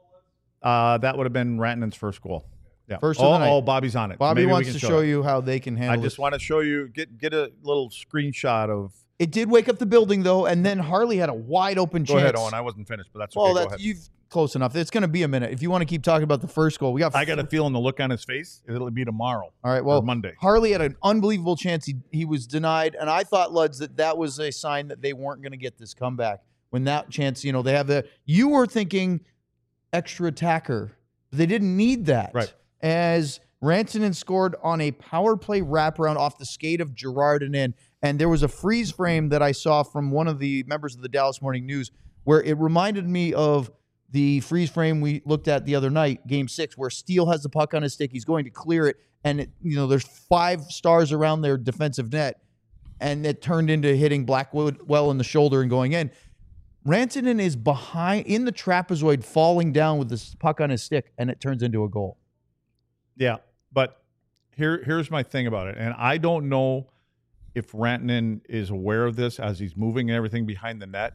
that would have been Rantanen's first goal. Yeah. First of the night. Bobby's on it. Bobby wants to show you how they can handle it. I just want to show you, get a little screenshot of. It did wake up the building, though, and then Harley had a wide open chance. Go ahead, Owen. I wasn't finished, but that's okay. Go ahead. You've close enough. It's going to be a minute. If you want to keep talking about the first goal, I got a feeling the look on his face, it'll be tomorrow. All right, well, Monday. Harley had an unbelievable chance. He was denied, and I thought, Luds, that was a sign that they weren't going to get this comeback. When that chance, they have you were thinking extra attacker. They didn't need that. Right. As Rantanen scored on a power play wraparound off the skate of Girard and in. And there was a freeze frame that I saw from one of the members of the Dallas Morning News where it reminded me of the freeze frame we looked at the other night, Game 6, where Steele has the puck on his stick. He's going to clear it, and there's 5 stars around their defensive net, and it turned into hitting Blackwood well in the shoulder and going in. Rantanen is behind in the trapezoid, falling down with this puck on his stick, and it turns into a goal. Yeah, but here's my thing about it, and I don't know if Rantanen is aware of this as he's moving and everything behind the net.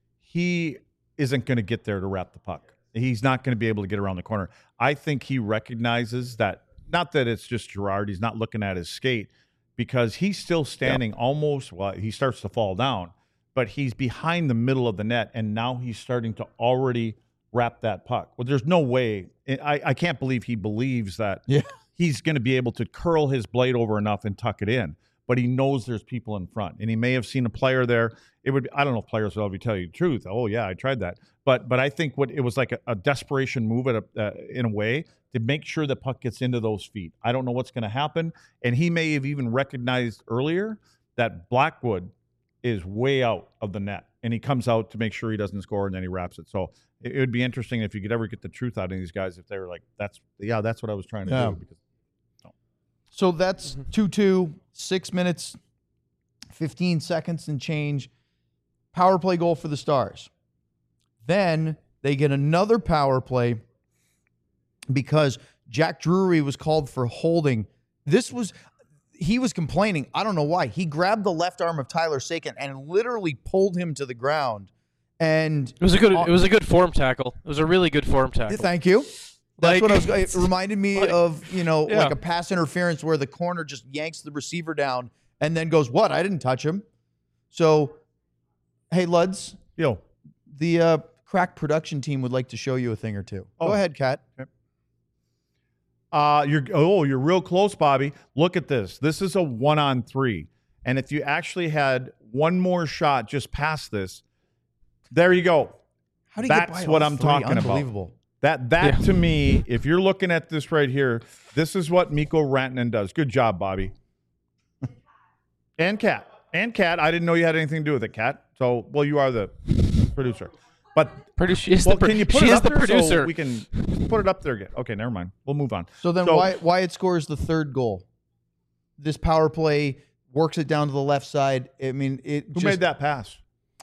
He isn't going to get there to wrap the puck. He's not going to be able to get around the corner. I think he recognizes that, not that it's just Girard, he's not looking at his skate, because he's still standing almost, he starts to fall down, but he's behind the middle of the net, and now he's starting to already wrap that puck. Well, there's no way. I can't believe he believes that he's going to be able to curl his blade over enough and tuck it in. But he knows there's people in front, and he may have seen a player there. It would be, I don't know if players will ever tell you the truth. Oh yeah, I tried that. But I think it was like a desperation move in a way to make sure the puck gets into those feet. I don't know what's going to happen, and he may have even recognized earlier that Blackwood is way out of the net, and he comes out to make sure he doesn't score, and then he wraps it. So it would be interesting if you could ever get the truth out of these guys if they were like, that's what I was trying to do. Because, So that's 2-2, 6 minutes, 15 seconds and change. Power play goal for the Stars. Then they get another power play because Jack Drury was called for holding. He was complaining. I don't know why. He grabbed the left arm of Tyler Sakin and literally pulled him to the ground. And it was a good form tackle. It was a really good form tackle. Thank you. That's what it reminded me of, like a pass interference where the corner just yanks the receiver down and then goes, what? I didn't touch him. So, hey, Luds. Yo. The crack production team would like to show you a thing or two. Go ahead, Kat. Okay. You're real close, Bobby. Look at this. This is a 1-on-3. And if you actually had one more shot just past this, there you go. How do you That's get by what all I'm three? talking Unbelievable. about. That to me, if you're looking at this right here, this is what Mikko Rantanen does. Good job, Bobby. And Kat. I didn't know you had anything to do with it, Kat. So, well, you are the producer. But can you put it it up the there producer. so we can put it up there again? Okay, never mind. We'll move on. So then Wyatt scores the third goal. This power play works it down to the left side. I mean, Who made that pass?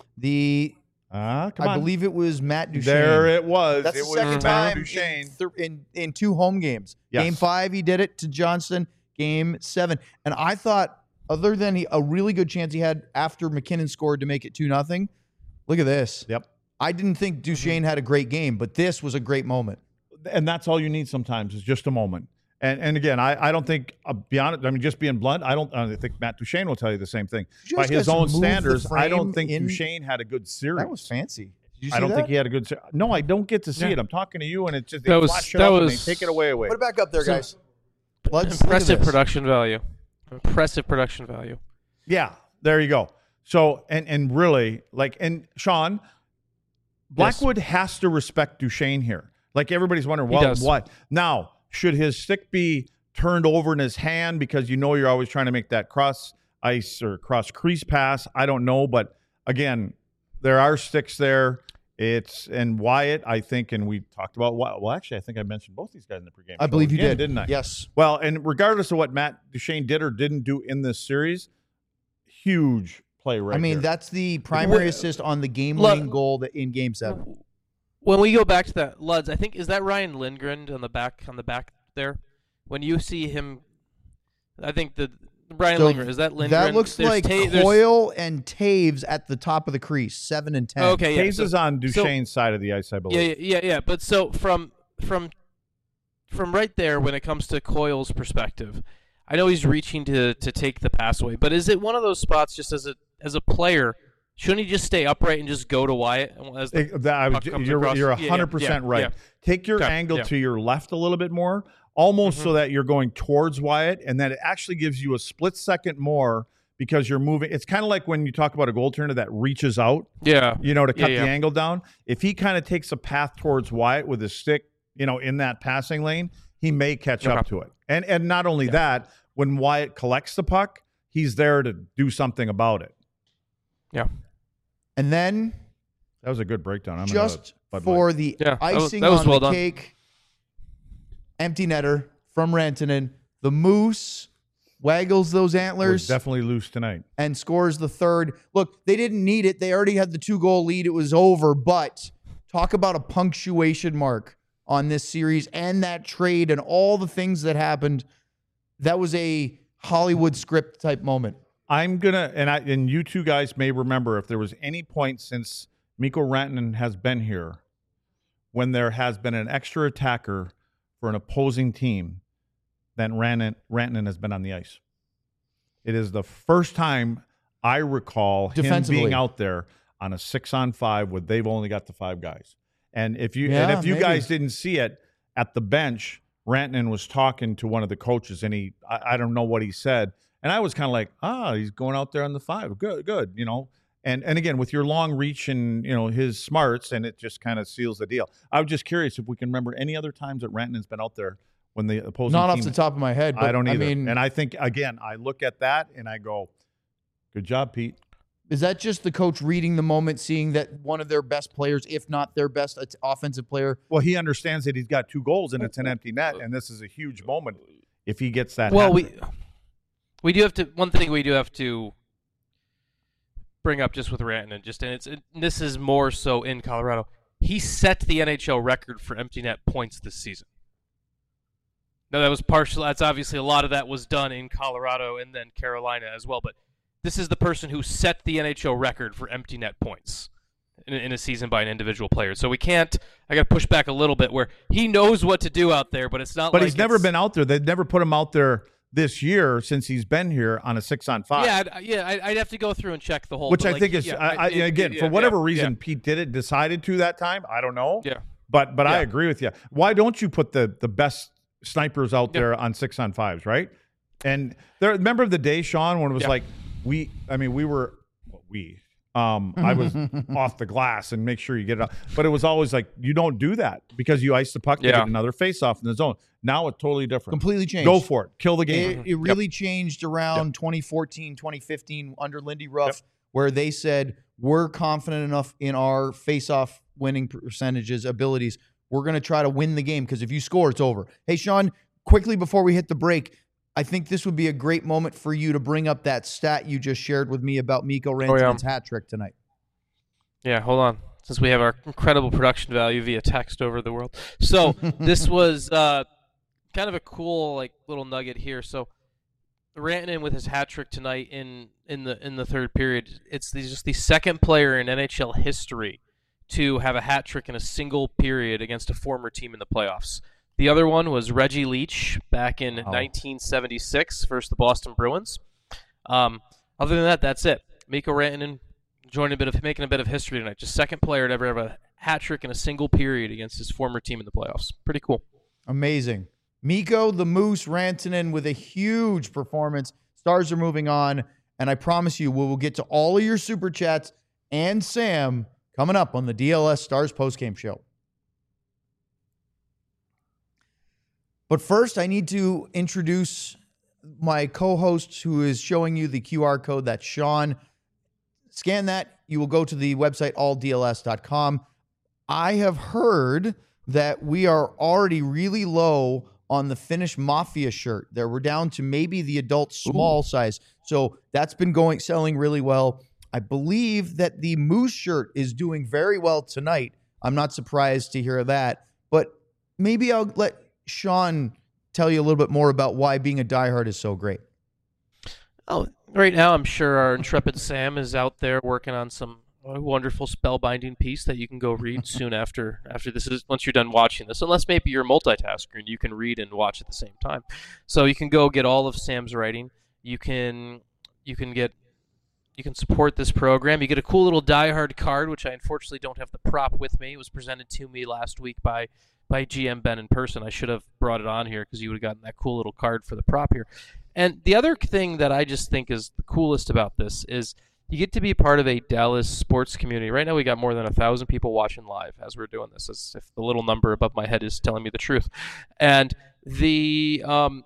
I believe it was Matt Duchene. There it was. That's it the was second time Duchene. in 2 home games. Yes. Game 5, he did it to Johnston. Game 7. And I thought, other than a really good chance he had after McKinnon scored to make it 2-0, look at this. Yep. I didn't think Duchene had a great game, but this was a great moment. And that's all you need sometimes is just a moment. And again, I don't think, beyond it, I mean, just being blunt, I think Matt Duchene will tell you the same thing. By his own standards, I don't think Duchene had a good series. That was fancy. Did you see I don't that? think he had a good series. No, I don't get to see it. I'm talking to you, and it's just That was- flash it that up and was- they take it away. Put it back up there, guys. Impressive production value. Impressive production value. Yeah, there you go. So, and really, and Sean, Blackwood has to respect Duchene here. Like, everybody's wondering, well, what? Now, should his stick be turned over in his hand because you're always trying to make that cross ice or cross crease pass? I don't know, but again, there are sticks there. And Wyatt, I think, and we talked about, well, actually, I think I mentioned both these guys in the pregame. I believe you did, didn't I? Yes. Well, and regardless of what Matt Duchene did or didn't do in this series, huge play right here. That's the primary assist on the game-winning goal in Game 7. When we go back to that, Luds, I think, is that Ryan Lindgren on the back there? When you see him, I think Lindgren, is that Lindgren? That looks like Coyle and Taves at the top of the crease, 7 and 10. Okay, Taves is on Duchene's side of the ice, I believe. Yeah. But so from right there, when it comes to Coyle's perspective, I know he's reaching to take the pass away, but is it one of those spots just as a player? Shouldn't he just stay upright and just go to Wyatt? You're 100% right. Yeah. Take your angle to your left a little bit more, almost so that you're going towards Wyatt, and then it actually gives you a split second more because you're moving. It's kind of like when you talk about a goaltender that reaches out, to cut the angle down. If he kind of takes a path towards Wyatt with his stick, in that passing lane, he may catch up to it. And not only that, when Wyatt collects the puck, he's there to do something about it. Yeah. And then that was a good breakdown. Just for the icing on the cake, empty netter from Rantanen. The Moose waggles those antlers. Definitely loose tonight. And scores the third. Look, they didn't need it. They already had the 2-goal lead. It was over. But talk about a punctuation mark on this series and that trade and all the things that happened. That was a Hollywood script type moment. I'm gonna, and you two guys may remember, if there was any point since Mikko Rantanen has been here when there has been an extra attacker for an opposing team, then Rantanen has been on the ice. It is the first time I recall him being out there on a 6-on-5 where they've only got the 5 guys. And if you guys didn't see it at the bench, Rantanen was talking to one of the coaches, and I don't know what he said. And I was kind of like, he's going out there on the 5. Good. And again, with your long reach and, his smarts, and it just kind of seals the deal. I was just curious if we can remember any other times that Rantanen's been out there when the opposing Not team, off the top of my head. But I don't either. And I think, again, I look at that and I go, good job, Pete. Is that just the coach reading the moment, seeing that one of their best players, if not their best offensive player? Well, he understands that he's got 2 goals and it's an empty net, and this is a huge moment if he gets that. Well, we do have to. One thing we do have to bring up just with Rantanen, this is more so in Colorado. He set the NHL record for empty net points this season. Now that was partial. That's obviously a lot of that was done in Colorado and then Carolina as well. But this is the person who set the NHL record for empty net points in a season by an individual player. So we can't. I got to push back a little bit where he knows what to do out there, but it's not. But he's never been out there. They've never put him out there this year since he's been here on a 6-on-5. Yeah, I'd have to go through and check the whole. Which I think is, again, for whatever reason Pete decided to that time. I don't know. Yeah. But I agree with you. Why don't you put the best snipers out there on 6-on-5s, right? And remember the day, Sean, when it was like I was off the glass and make sure you get it out. But it was always like, you don't do that because you ice the puck to get another face-off in the zone. Now it's totally different. Completely changed. Go for it. Kill the game. It really changed around 2014, 2015 under Lindy Ruff, where they said, we're confident enough in our face-off winning percentages, abilities. We're going to try to win the game because if you score, it's over. Hey, Sean, quickly before we hit the break, I think this would be a great moment for you to bring up that stat you just shared with me about Mikko Rantanen's hat trick tonight. Yeah, hold on. Since we have our incredible production value via text over the world. So this was kind of a cool little nugget here. So Rantanen with his hat trick tonight in the third period. It's just the second player in NHL history to have a hat trick in a single period against a former team in the playoffs. The other one was Reggie Leach back in 1976 versus the Boston Bruins. Other than that, that's it. Mikko Rantanen making a bit of history tonight. Just second player to ever have a hat trick in a single period against his former team in the playoffs. Pretty cool. Amazing. Mikko the Moose Rantanen with a huge performance. Stars are moving on, and I promise you we will get to all of your Super Chats and Sam coming up on the DLS Stars postgame show. But first, I need to introduce my co-host who is showing you the QR code. That's Sean. Scan that. You will go to the website, alldls.com. I have heard that we are already really low on the Finnish Mafia shirt. We're down to maybe the adult small size. So that's been selling really well. I believe that the Moose shirt is doing very well tonight. I'm not surprised to hear that. But maybe I'll let Sean tell you a little bit more about why being a diehard is so great. Oh, right now I'm sure our intrepid Sam is out there working on some wonderful spellbinding piece that you can go read soon after this is once you're done watching this. Unless maybe you're a multitasker and you can read and watch at the same time. So you can go get all of Sam's writing. You can support this program. You get a cool little diehard card, which I unfortunately don't have the prop with me. It was presented to me last week by GM Ben in person. I should have brought it on here because you would have gotten that cool little card for the prop here. And the other thing that I just think is the coolest about this is you get to be part of a Dallas sports community. Right now we got more than 1,000 people watching live as we're doing this, as if the little number above my head is telling me the truth. And it's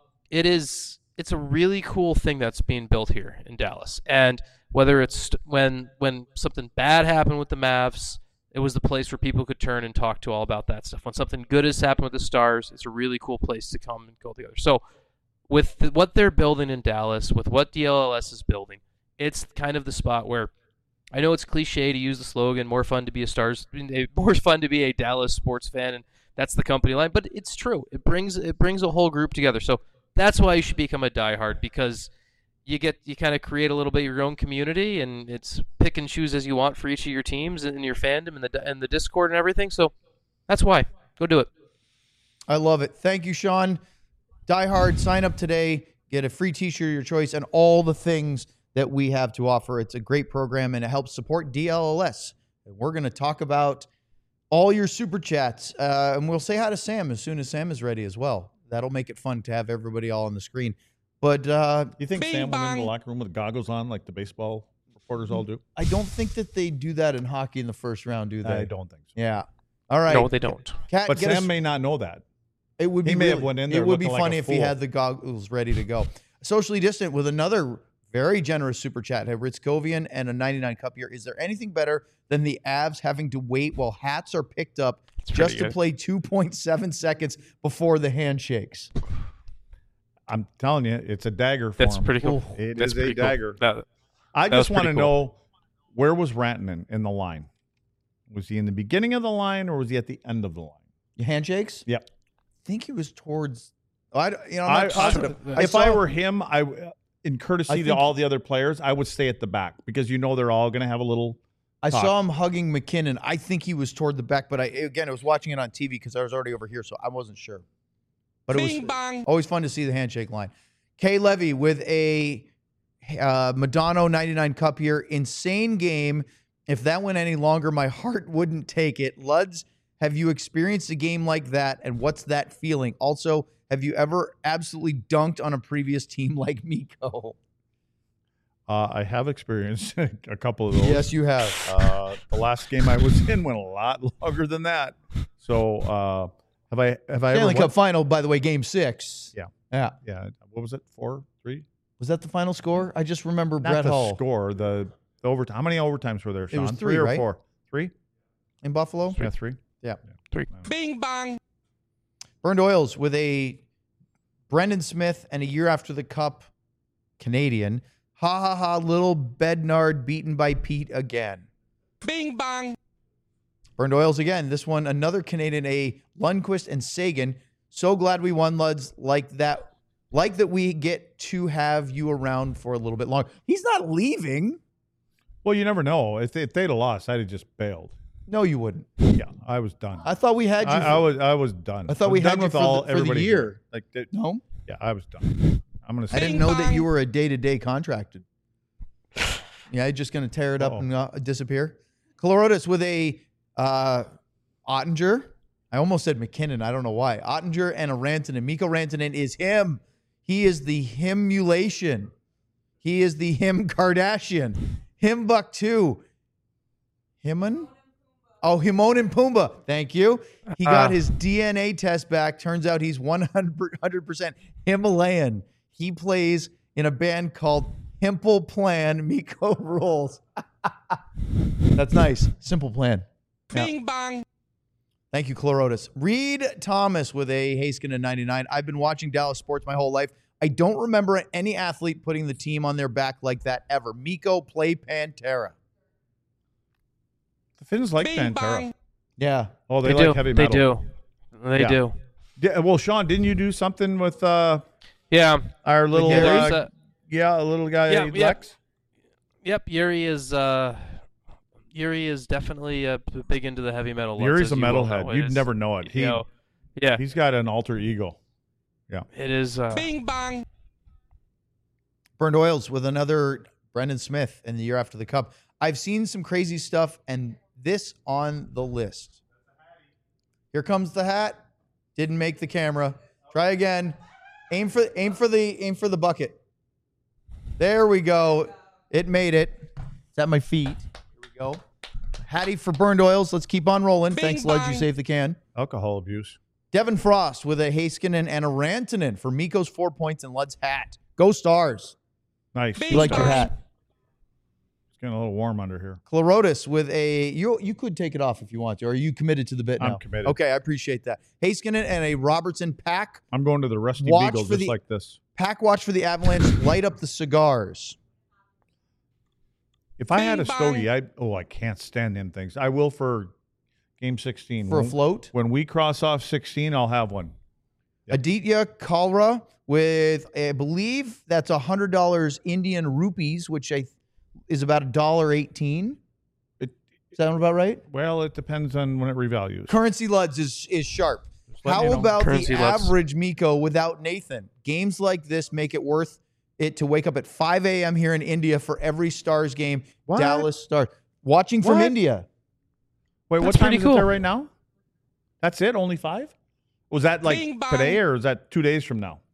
a really cool thing that's being built here in Dallas. And whether it's when something bad happened with the Mavs, it was the place where people could turn and talk to all about that stuff. When something good has happened with the Stars, it's a really cool place to come and go together. So with what they're building in Dallas, with what DLLS is building, it's kind of the spot where I know it's cliche to use the slogan, more fun to be a Dallas sports fan, and that's the company line, but it's true. It brings a whole group together. So that's why you should become a diehard, because you kind of create a little bit of your own community, and it's pick and choose as you want for each of your teams and your fandom and the Discord and everything. So that's why. Go do it. I love it. Thank you, Sean. Die Hard, sign up today. Get a free t-shirt of your choice and all the things that we have to offer. It's a great program, and it helps support DLLS. And we're going to talk about all your Super Chats, and we'll say hi to Sam as soon as Sam is ready as well. That'll make it fun to have everybody all on the screen. But you think Sam went in the locker room with goggles on like the baseball reporters all do? I don't think that they do that in hockey in the first round, do they? I don't think so. Yeah. All right. No, they don't. Kat, but Sam may not know that. It would be he may have went in there. It would be funny if he had the goggles ready to go. Socially Distant with another very generous super chat. Have Ritzkovian and a 99 cup here. Is there anything better than the Avs having to wait while hats are picked up just to play 2.7 seconds before the handshakes? I'm telling you, it's a dagger for That's him. Pretty cool. It is a dagger. I just want to know, where was Rantanen in the line? Was he in the beginning of the line or was he at the end of the line? Handshakes? Yep. I think he was towards. I'm not positive. If I were him, in courtesy to all the other players, I would stay at the back because they're all going to have a little. I saw him hugging McKinnon. I think he was toward the back, but I was watching it on TV because I was already over here, so I wasn't sure. But it was always fun to see the handshake line. K. Levy with a Madonna 99 cup here. Insane game. If that went any longer, my heart wouldn't take it. Luds, have you experienced a game like that, and what's that feeling? Also, have you ever absolutely dunked on a previous team like Mikko? I have experienced a couple of those. Yes, you have. The last game I was in went a lot longer than that. So have I Stanley Cup final, by the way, Game 6. Yeah. What was it? 4-3? Was that the final score? I just remember Not Brett the Hull. score. The overtime. How many overtimes were there, Sean? It was 3, or right? 4? 3 in Buffalo. Yeah, 3. Yeah. 3. Bing bang. Burned Oils with a Brendan Smith and a year after the Cup Canadian. Ha ha ha, little Bednard beaten by Pete again. Bing bang. Burned Oils again. This one, another Canadian, a Lundqvist and Sagan. So glad we won, Luds. Like that we get to have you around for a little bit longer. He's not leaving. Well, you never know. If they'd have lost, I'd have just bailed. No, you wouldn't. Yeah, I was done. I thought we had you. I was done. I thought we had you for the year. Like no. Yeah, I was done. I'm gonna. I didn't know that you were a day-to-day contracted. Yeah, you're just gonna tear it up and disappear. Colorodis with a Ottinger. I almost said McKinnon. I don't know why. Ottinger and a Rantanen. Mikko Rantanen is him. He is the himulation. He is the him Kardashian. Him Buck 2. Himon? Oh, Himon and Pumbaa. Thank you. He got his DNA test back. Turns out he's 100% Himalayan. He plays in a band called Himple Plan. Mikko rules. That's nice. Simple Plan. Bing bang. Thank you, Chlorotis. Reed Thomas with a Heiskanen 99. I've been watching Dallas sports my whole life. I don't remember any athlete putting the team on their back like that ever. Mikko, play Pantera. The Finns like Bing Pantera. bang. Yeah. Oh, they like heavy metal. They do. Yeah, well, Sean, didn't you do something with our little a little guy Lex? Yep, Yuri is definitely big into the heavy metal. Yuri's a metalhead. You'd never know it. He's got an alter ego. Yeah, it is. Bing bang. Burned Oils with another Brendan Smith in the year after the Cup. I've seen some crazy stuff, and this on the list. Here comes the hat. Didn't make the camera. Try again. Aim for the bucket. There we go. It made it. It's at my feet. Here we go. Hattie for Burned Oils. Let's keep on rolling. Bing Thanks, Lud. bang. You saved the can. Alcohol abuse. Devin Frost with a Heiskanen and a Rantanen for Mikko's 4 points and Lud's hat. Go Stars. Nice. Bing You like your bang. hat. It's getting a little warm under here. Chlorotis with a you could take it off if you want to. Or are you committed to the bit now? I'm committed. Okay, I appreciate that. Heiskanen and a Robertson pack. I'm going to the Rusty Watch Beagle for just like this. Pack watch for the Avalanche. Light up the cigars. If I had a Bing stogie, I can't stand them things. I will for Game 16. For a float? When we cross off 16, I'll have one. Yep. Aditya Kalra with, I believe that's $100 Indian rupees, which is about $1.18. Is that about right? Well, it depends on when it revalues. Currency Luds is sharp. let How me know. about Currency the Luds. average Mikko without Nathan? Games like this make it worth it to wake up at 5 a.m. here in India for every Stars game. What? Dallas Stars. Watching from What? India. Wait, That's what time pretty is cool. it there right now? That's it? Only 5? Was that like Bing bang. today or is that 2 days from now?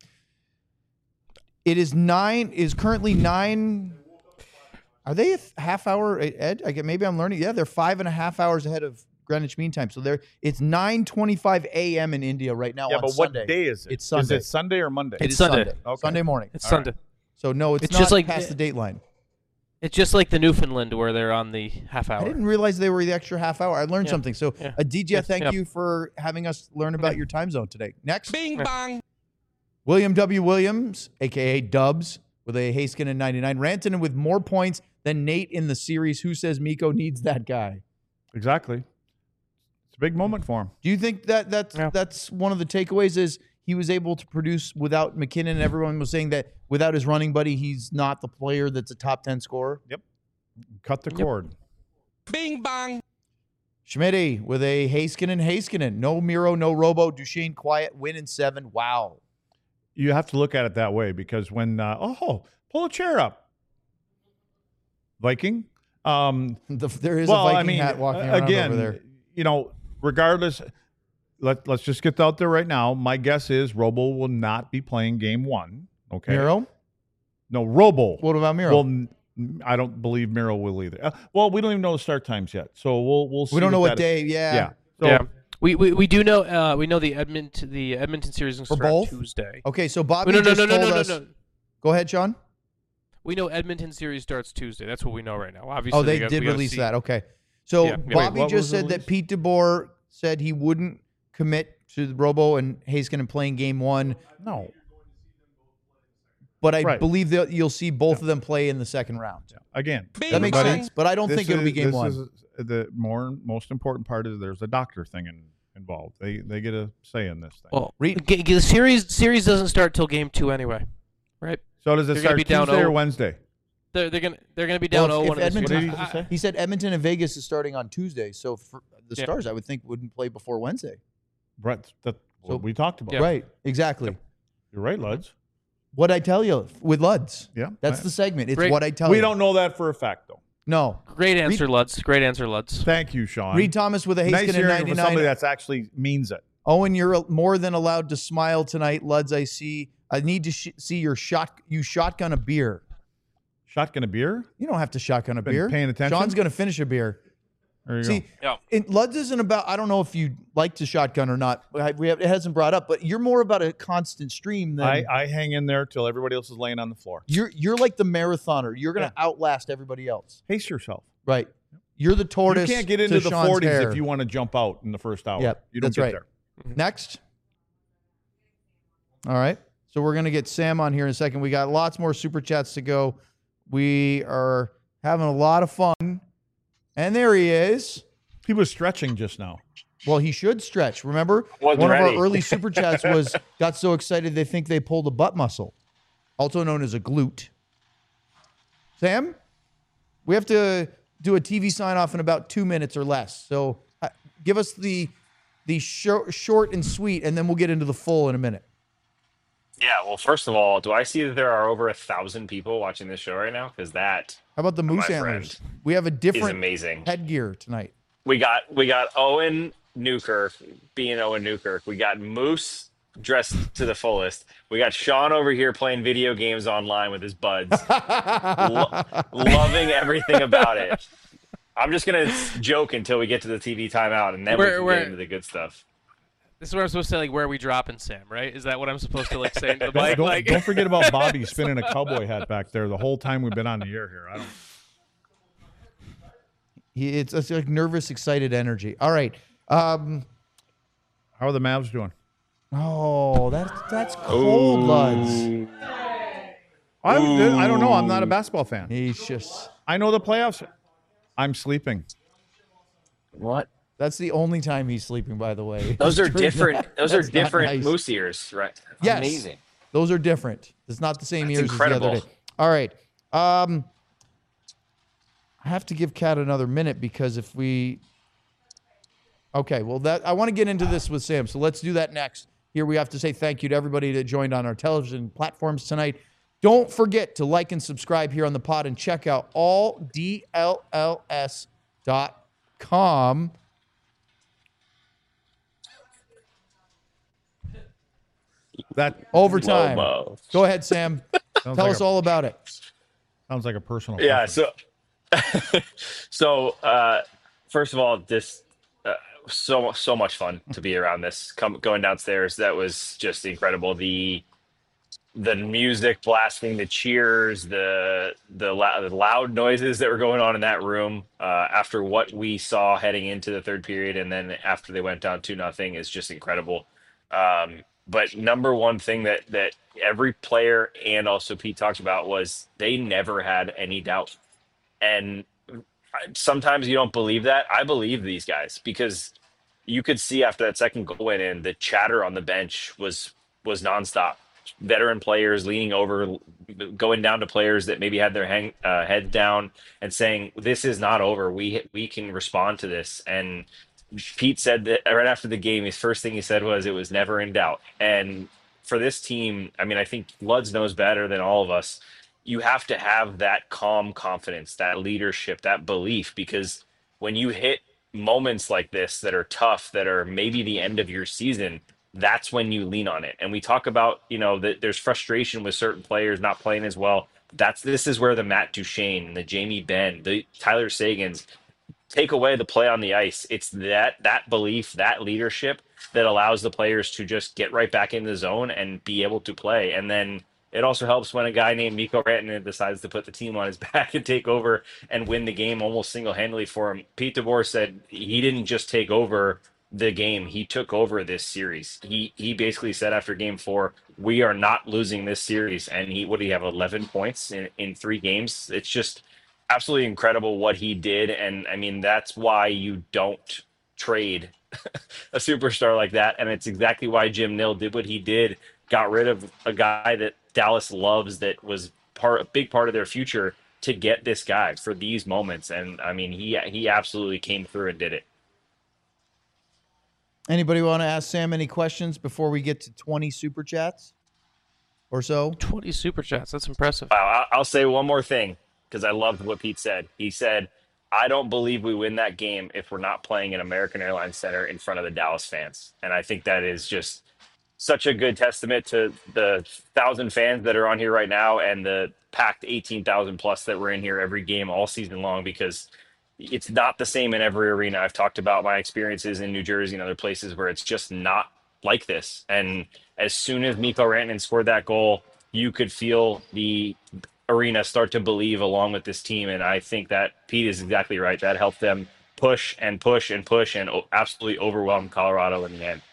It is currently 9. Are they a half hour, Ed? Maybe I'm learning. Yeah, they're 5.5 hours ahead of Greenwich Mean Time. So it's 9:25 a.m. in India right now. Yeah, on but Sunday. what day is it? It's Sunday. Is it Sunday or Monday? It It's is Sunday. Sunday. Okay. Sunday morning. It's All Sunday. So no, it's It's not just like- past the date line. It's just like the Newfoundland where they're on the half hour. I didn't realize they were the extra half hour. I learned Yeah. something. So, Yeah. Aditya, Yeah. thank Yeah. you for having us learn about your time zone today. Next, Bing bang. William W. Williams, a.k.a. Dubs, with a Heiskanen 99. Rantanen with more points than Nate in the series. Who says Mikko needs that guy? Exactly. It's a big moment for him. Do you think that's one of the takeaways is he was able to produce without McKinnon? And everyone was saying that without his running buddy, he's not the player that's a top 10 scorer. Cut the cord. Bing bang. Schmitty with a Heiskanen. No Miro, no Robo. Duchesne quiet, win in 7. Wow. you have to look at it that way because when pull a chair up, Viking. There is a Viking hat walking around over there. Regardless, let's just get out there right now. My guess is Robo will not be playing game 1. Okay. Miro? No, Robo. What about Miro? Well, I don't believe Miro will either. We don't even know the start times yet, so we'll see. We don't know what day. Yeah. So, We do know we know the Edmonton series is going to start Tuesday. Okay, so Bobby told us. No. Go ahead, Sean. We know Edmonton series starts Tuesday. That's what we know right now. Obviously, they did release that. Okay, so Bobby just said that Pete DeBoer said he wouldn't commit to the Robo and Heiskanen playing game 1. No. But I believe that you'll see both of them play in the second round. Yeah. Again, that makes sense. But I don't think it'll be game 1. The most important part is there's a doctor thing involved. They get a say in this thing. Well, the series doesn't start till game 2 anyway, right? So does it start Tuesday or Wednesday? They're gonna be down 0-1. Edmonton, he said Edmonton and Vegas is starting on Tuesday. So for the Stars, I would think wouldn't play before Wednesday. Right. That's what we talked about. Yeah. Right. Exactly. Yep. You're right, Luds. What'd I tell you with Luds? Yeah. That's the segment. It's what I tell you. We don't know that for a fact, though. No. Great answer, Luds. Great answer, Luds. Thank you, Sean. Reed Thomas with a Heiskanen nice 99. From somebody that actually means it. Owen, you're more than allowed to smile tonight. Luds, I need to see you shotgun a beer. Shotgun a beer? You don't have to shotgun a beer. Paying attention? Sean's going to finish a beer. There you go. Luds isn't about, I don't know if you like to shotgun or not. It hasn't brought up, but you're more about a constant stream than. I hang in there till everybody else is laying on the floor. You're like the marathoner. You're going to outlast everybody else. Pace yourself. Right. You're the tortoise. You can't get into the Sean's 40s hair. if you want to jump out in the first hour. Yep, you don't get there. Next. All right. So we're going to get Sam on here in a second. We got lots more super chats to go. We are having a lot of fun. And there he is. He was stretching just now. Well, he should stretch. Remember, one of our early super chats got so excited they think they pulled a butt muscle, also known as a glute. Sam, we have to do a TV sign off in about 2 minutes or less. So give us the short and sweet, and then we'll get into the full in a minute. Yeah, well, first of all, do I see that there are over 1,000 people watching this show right now? Because that. How about the moose antlers? We have a different amazing headgear tonight. We got Owen Newkirk being Owen Newkirk. We got Moose dressed to the fullest. We got Sean over here playing video games online with his buds, loving everything about it. I'm just gonna joke until we get to the TV timeout, and then we can get into the good stuff. This is what I'm supposed to say, like, where are we dropping Sam, right? Is that what I'm supposed to, say to the mic? Don't forget about Bobby spinning a cowboy hat back there the whole time we've been on the air here. It's like nervous, excited energy. All right. How are the Mavs doing? Oh, that's cold, Luds. I don't know. I'm not a basketball fan. I know the playoffs. I'm sleeping. What? That's the only time he's sleeping, by the way. Those are different. Those are different moose ears, right? Yes. Amazing. Those are different. It's not the same ears incredible. as the other day. All right. I have to give Kat another minute because if we. Okay, well, I want to get into this with Sam, so let's do that next. Here we have to say thank you to everybody that joined on our television platforms tonight. Don't forget to like and subscribe here on the pod and check out alldlls.com. That overtime. Lobo. Go ahead, Sam. Tell us all about it. Sounds like a personal. Yeah. So, first of all, this so much fun to be around this. Going downstairs, that was just incredible. The music blasting, the cheers, the loud noises that were going on in that room after what we saw heading into the third period, and then after they went down 2-0 is just incredible. But number one thing that every player and also Pete talked about was they never had any doubt. And sometimes you don't believe that. I believe these guys because you could see after that second goal went in, the chatter on the bench was nonstop. Veteran players leaning over, going down to players that maybe had their heads down and saying, "This is not over. We can respond to this." And Pete said that right after the game, his first thing he said was, "It was never in doubt." And for this team, I mean, I think Luds knows better than all of us. You have to have that calm confidence, that leadership, that belief, because when you hit moments like this that are tough, that are maybe the end of your season, that's when you lean on it. And we talk about, that there's frustration with certain players not playing as well. This is where the Matt Duchene, the Jamie Benn, the Tyler Sagans take away the play on the ice. It's that belief, that leadership that allows the players to just get right back in the zone and be able to play. And then it also helps when a guy named Mikko Rantanen decides to put the team on his back and take over and win the game almost single-handedly for him. Pete DeBoer said he didn't just take over the game, he took over this series. He basically said after game 4, we are not losing this series. And what do you have, 11 points in 3 games? It's just absolutely incredible what he did. And I mean, that's why you don't trade a superstar like that. And it's exactly why Jim Nill did what he did, got rid of a guy that Dallas loves, that was a big part of their future, to get this guy for these moments. And I mean, he absolutely came through and did it. Anybody want to ask Sam any questions before we get to 20 super chats or so? 20 super chats. That's impressive. I'll say one more thing, because I loved what Pete said. He said, I don't believe we win that game if we're not playing in American Airlines Center in front of the Dallas fans. And I think that is just such a good testament to the 1,000 fans that are on here right now and the packed 18,000 plus that were in here every game all season long, because it's not the same in every arena. I've talked about my experiences in New Jersey and other places where it's just not like this. And as soon as Mikko Rantanen scored that goal, you could feel the arena start to believe along with this team. And I think that Pete is exactly right. That helped them push and push and push and absolutely overwhelm Colorado in the end.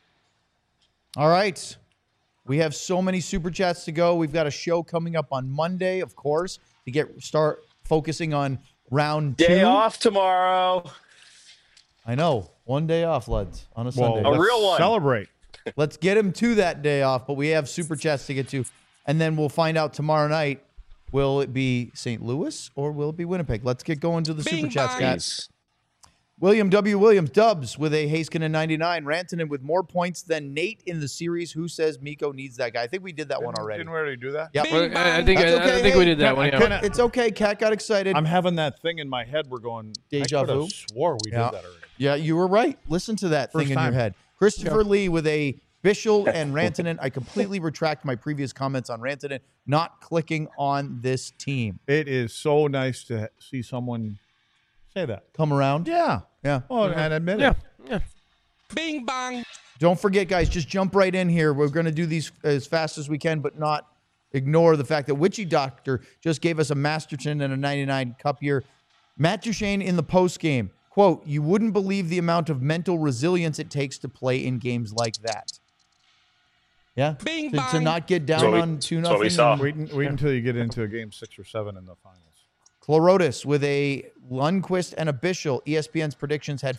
All right. We have so many super chats to go. We've got a show coming up on Monday, of course, to start focusing on round 2. Day off tomorrow. I know. One day off, Luds, on a Sunday. A real one. Celebrate. Let's get him to that day off, but we have super chats to get to. And then we'll find out tomorrow night, will it be St. Louis or will it be Winnipeg? Let's get going to the super chats, guys. William W. Williams, Dubs with a Heiskanen 99. Rantanen with more points than Nate in the series. Who says Mikko needs that guy? I think we did that one already. Didn't we already do that? Yep. I think we did that one. Yeah. It's okay. Kat got excited. I'm having that thing in my head. We're going, Deja vu? I swore we did that already. Yeah, you were right. Listen to that thing in your head. Christopher Lee with a Bischel and Rantanen. I completely retract my previous comments on Rantanen not clicking on this team. It is so nice to see someone say that. Come around? Yeah. Yeah. Oh, and admit it. Yeah. Bing bang. Don't forget, guys, just jump right in here. We're going to do these as fast as we can, but not ignore the fact that Witchy Doctor just gave us a Masterton and a 99 Cup year. Matt Duchene in the post game, quote, you wouldn't believe the amount of mental resilience it takes to play in games like that. Yeah. Bing To not get down on 2-0. That's what we saw. Wait until you get into a game 6 or 7 in the finals. Chlorotis with a Lundqvist and a Bischel. ESPN's predictions had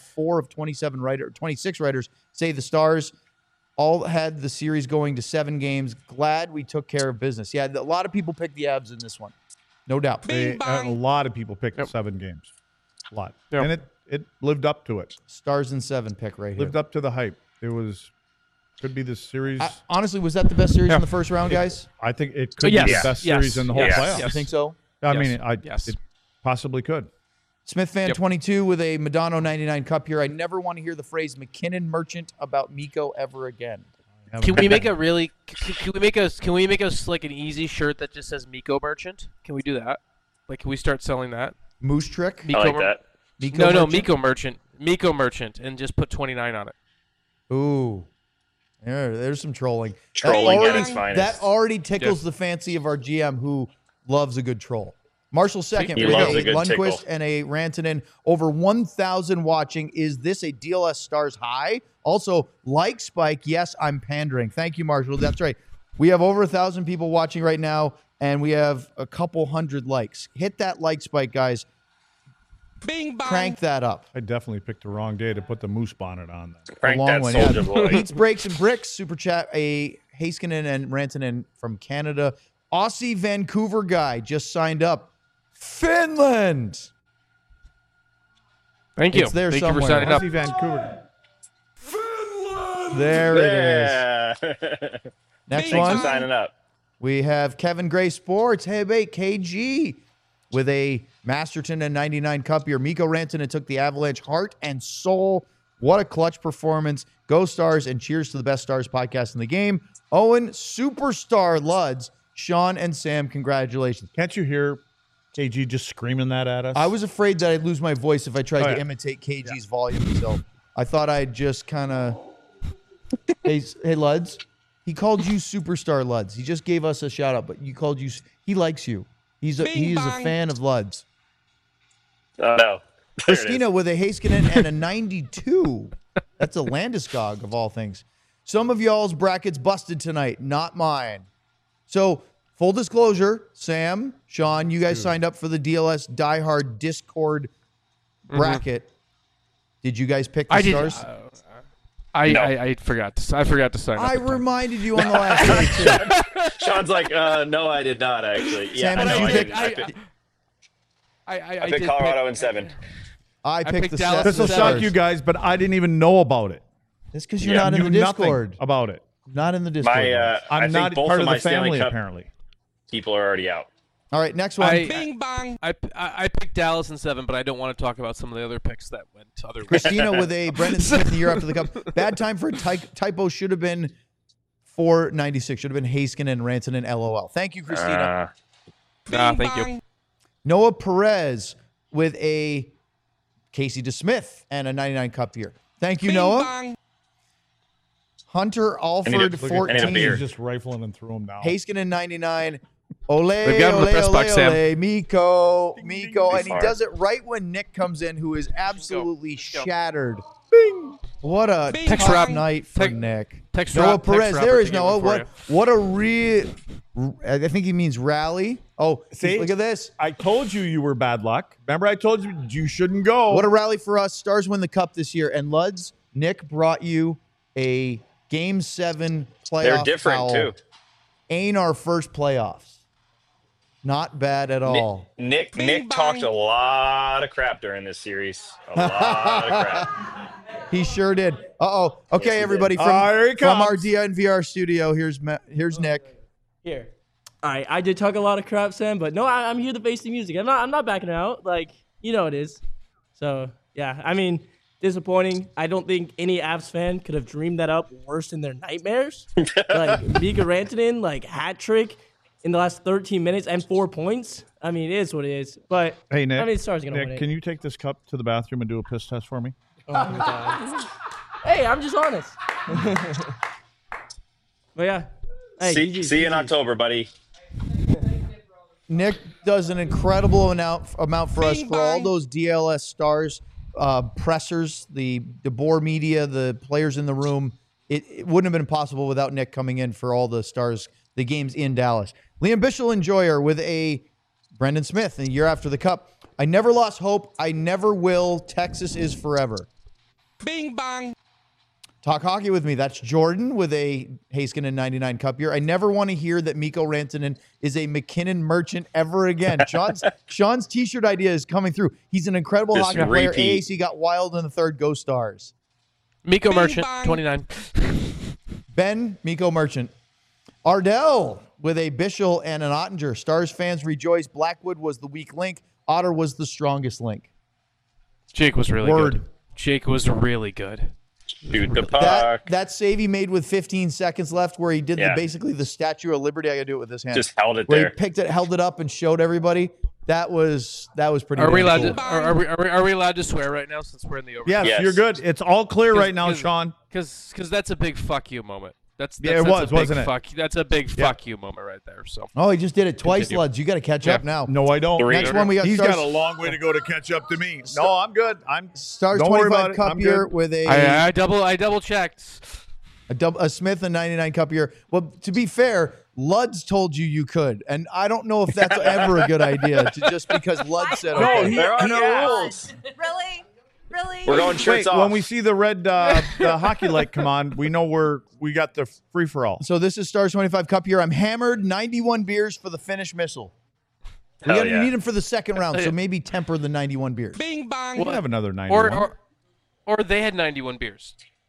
26 writers say the Stars all had the series going to 7 games. Glad we took care of business. Yeah, a lot of people picked the Avs in this one. No doubt. A lot of people picked 7 games. A lot. Yep. And it lived up to it. Stars in 7 pick right here. Lived up to the hype. Could be the series. Honestly, was that the best series in the first round, guys? I think it could be the best series in the whole playoffs. You think so? I mean, it possibly could. Smith fan 22 with a Madonna 99 Cup here. I never want to hear the phrase McKinnon Merchant about Mikko ever again. Can we make us like an easy shirt that just says Mikko Merchant? Can we do that? Like, can we start selling that? Moose Trick? I like that. Mikko Merchant, and just put 29 on it. Ooh. There's some trolling. Trolling at its finest. That already tickles the fancy of our GM, who loves a good troll. Marshall second with loves a a good Lundqvist tickle. and a Rantanen. Over 1,000 watching. Is this a DLS Stars high? Also, like Spike, yes, I'm pandering. Thank you, Marshall. That's right. We have over 1,000 people watching right now, and we have a couple hundred likes. Hit that like spike, guys. Bing bang. Crank that up. I definitely picked the wrong day to put the moose bonnet on. Crank long that one, soldier boy. Beats, Breaks, and Bricks. Super chat. A Heiskanen and Rantanen from Canada. Aussie Vancouver guy just signed up. Finland. Thank you. It's there Thank somewhere. you for signing up. Aussie Vancouver. There it is. Yeah. Next Thanks one. for signing up. We have Kevin Gray Sports. Hey, wait, KG with a Masterton and 99 Cup year. Mikko Rantanen took the Avalanche heart and soul. What a clutch performance. Go Stars, and cheers to the best Stars podcast in the game. Owen, Superstar Luds, Sean, and Sam, congratulations. Can't you hear KG just screaming that at us? I was afraid that I'd lose my voice if I tried to imitate KG's volume, so I thought I'd just kind of... Hey, Luds, he called you Superstar Luds. He just gave us a shout-out, but you called you... He likes you. He's a fan of Luds. Oh, no. Christina with a Heiskanen and a 92. That's a Landeskog of all things. Some of y'all's brackets busted tonight, not mine. So, full disclosure, Sam, Sean, you guys signed up for the DLS Die Hard Discord bracket. Did you guys pick the Stars? I forgot to sign up. I reminded you on the last day, too. Sean's like, no, I did not, actually. Sam, I did picked I picked Colorado in 7. I picked the Dallas. This will shock you guys, but I didn't even know about it. It's because you're not in the Discord. About it. Not in the Discord. I'm not part of the family, apparently. People are already out. All right, next one. Bing bang. I picked Dallas in 7, but I don't want to talk about some of the other picks that went other ways. Christina with a Brendan Smith the year after the Cup. Bad time for a typo. Should have been 496. Should have been Heiskanen and Rantanen. LOL. Thank you, Christina. Thank you. Noah Perez with a Casey DeSmith and a 99 Cup year. Thank you, Noah. Bang. Hunter Alford, 14. He's just rifling and threw him down. Heiskanen, 99. Ole, They've got him in the press box, Sam. Mikko. And he does it right when Nick comes in, who is absolutely shattered. Bing. What a tough night for Nick. Noah Perez. There is Noah. What a real... I think he means rally. Oh, see, look at this. I told you were bad luck. Remember I told you you shouldn't go. What a rally for us. Stars win the Cup this year. And Luds, Nick brought you a Game 7 playoff. They're different, foul. too. Ain't our first playoffs. Not bad at all. Nick talked a lot of crap during this series. A lot of crap. He sure did. Uh-oh. Okay, yes, everybody, from our DNVR studio, here's Nick. Here. All right, I did talk a lot of crap, Sam, but no, I'm here to face the music. I'm not backing out. Like, you know it is. So, yeah, I mean, disappointing. I don't think any Avs fan could have dreamed that up worse in their nightmares. Like, Mikko Rantanen, like, hat trick in the last 13 minutes and 4 points. I mean, it is what it is. But, hey, Nick, I mean, Stars going to win it. Can you take this cup to the bathroom and do a piss test for me? Oh, my God. Hey, I'm just honest. But, yeah. Hey, see you in October, buddy. Nick does an incredible amount for us for all those DLS Stars pressers, the DeBoer media, the players in the room. It wouldn't have been possible without Nick coming in for all the Stars, the games in Dallas. Liam Bichel Enjoyer with a Brendan Smith the year after the Cup. I never lost hope. I never will. Texas is forever. Bing bang. Talk hockey with me. That's Jordan with a Heiskanen 99 Cup year. I never want to hear that Mikko Rantanen is a McKinnon merchant ever again. Sean's T-shirt idea is coming through. He's an incredible hockey player. AAC got wild in the third. Go Stars. Mikko Merchant, 29. Ben, Mikko Merchant. Ardell with a Bichel and an Ottinger. Stars fans rejoice. Blackwood was the weak link. Otter was the strongest link. Jake was really good. Jake was really good. Shoot the puck. That save he made with 15 seconds left, where he did basically the Statue of Liberty. I got to do it with this hand. Just held it where there. He picked it, held it up, and showed everybody. That was pretty. Are we allowed cool. to? Are we allowed to swear right now since we're in the overtime? Yes, you're good. It's all clear right now, Sean. Because that's a big fuck you moment. That's wasn't it? That's a big fuck you moment right there. So. Oh, he just did it twice, Luds. You got to catch up now. No, I don't. Next one we got. He's got a long way to go to catch up to me. No, I'm good. Stars don't 25 Cup year with a. I double checked. A Smith and 99 Cup year. Well, to be fair, Luds told you could, and I don't know if that's ever a good idea. Just because Luds said no, there are no rules. Really? We're going shirts off. When we see the red the hockey light come on, we know we got the free for all. So this is Stars 25 Cup year. I'm hammered. 91 beers for the Finnish missile. We need them for the second round, so maybe temper the 91 beers. Bing bang. We'll have another 91. Or they had 91 beers.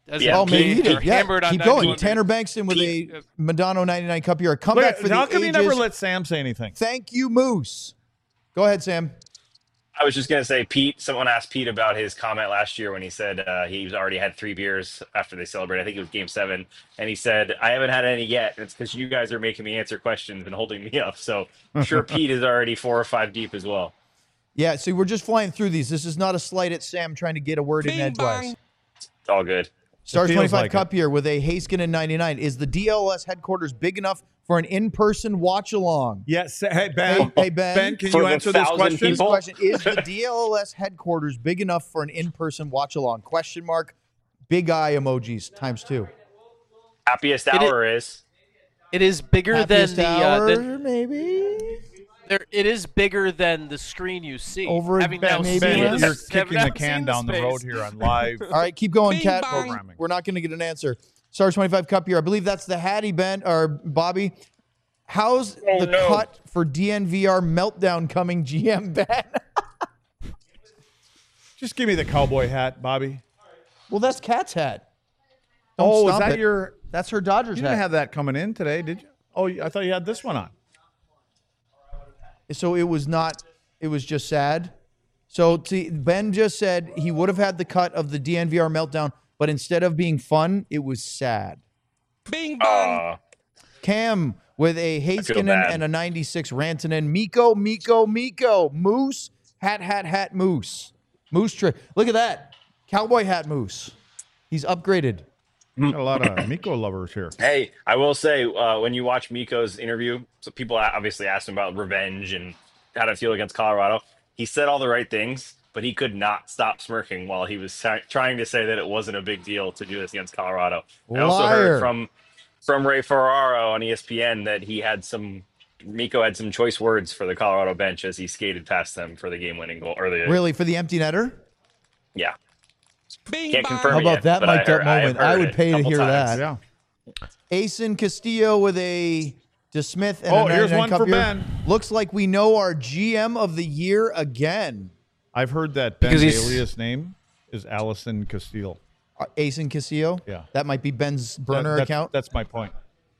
maybe keep going. Tanner Bankston with a Madonna 99 Cup year. A comeback for the ages. How come you never let Sam say anything? Thank you, Moose. Go ahead, Sam. I was just going to say, Pete, someone asked Pete about his comment last year when he said he's already had 3 beers after they celebrated. I think it was Game 7. And he said, I haven't had any yet. It's because you guys are making me answer questions and holding me up. So I'm sure Pete is already 4 or 5 deep as well. Yeah, see, we're just flying through these. This is not a slight at Sam trying to get a word in edgewise. It's all good. Stars 25 Cup year with a Haskinen 99. Is the DLS headquarters big enough for an in-person watch-along? Yes. Hey, Ben. Hey, Ben. Ben, can you answer this question? Is the DLS headquarters big enough for an in-person watch-along? Question mark. Big eye emojis ×2. Happiest hour is. It is bigger than the maybe. It is bigger than the screen you see. Over Ben, you're kicking the can down the road here on live. All right, keep going, Cat. Programming. We're not going to get an answer. Stars 25 Cup year. I believe that's the Hattie, Ben or Bobby. How's cut for DNVR meltdown coming, GM Ben? Just give me the cowboy hat, Bobby. Well, that's Cat's hat. Is that your? That's her Dodgers hat. You didn't have that coming in today, did you? Oh, I thought you had this one on. So it was not. It was just sad. So see, Ben just said he would have had the cut of the DNVR meltdown, but instead of being fun, it was sad. Bing bong. Cam with a Haskinen and a 96 Rantanen. Miko. Moose. Hat. Moose. Moose trick. Look at that. Cowboy hat Moose. He's upgraded. Got a lot of Miko lovers here. Hey, I will say, when you watch Miko's interview, so people obviously asked him about revenge and how to feel against Colorado. He said all the right things, but he could not stop smirking while he was trying to say that it wasn't a big deal to do this against Colorado. I also heard from Ray Ferraro on ESPN that Miko had some choice words for the Colorado bench as he skated past them for the game-winning goal. Really, for the empty netter? Yeah. Can't confirm. How about that mic'd up moment? I would pay to hear times. that. Yeah. Asen Castillo with a DeSmith and a here's one Cup for year. Ben. Looks like we know our GM of the year again. I've heard that Ben's alias name is Allison Castillo. Asen Castillo? Yeah. That might be Ben's burner account? That's my point.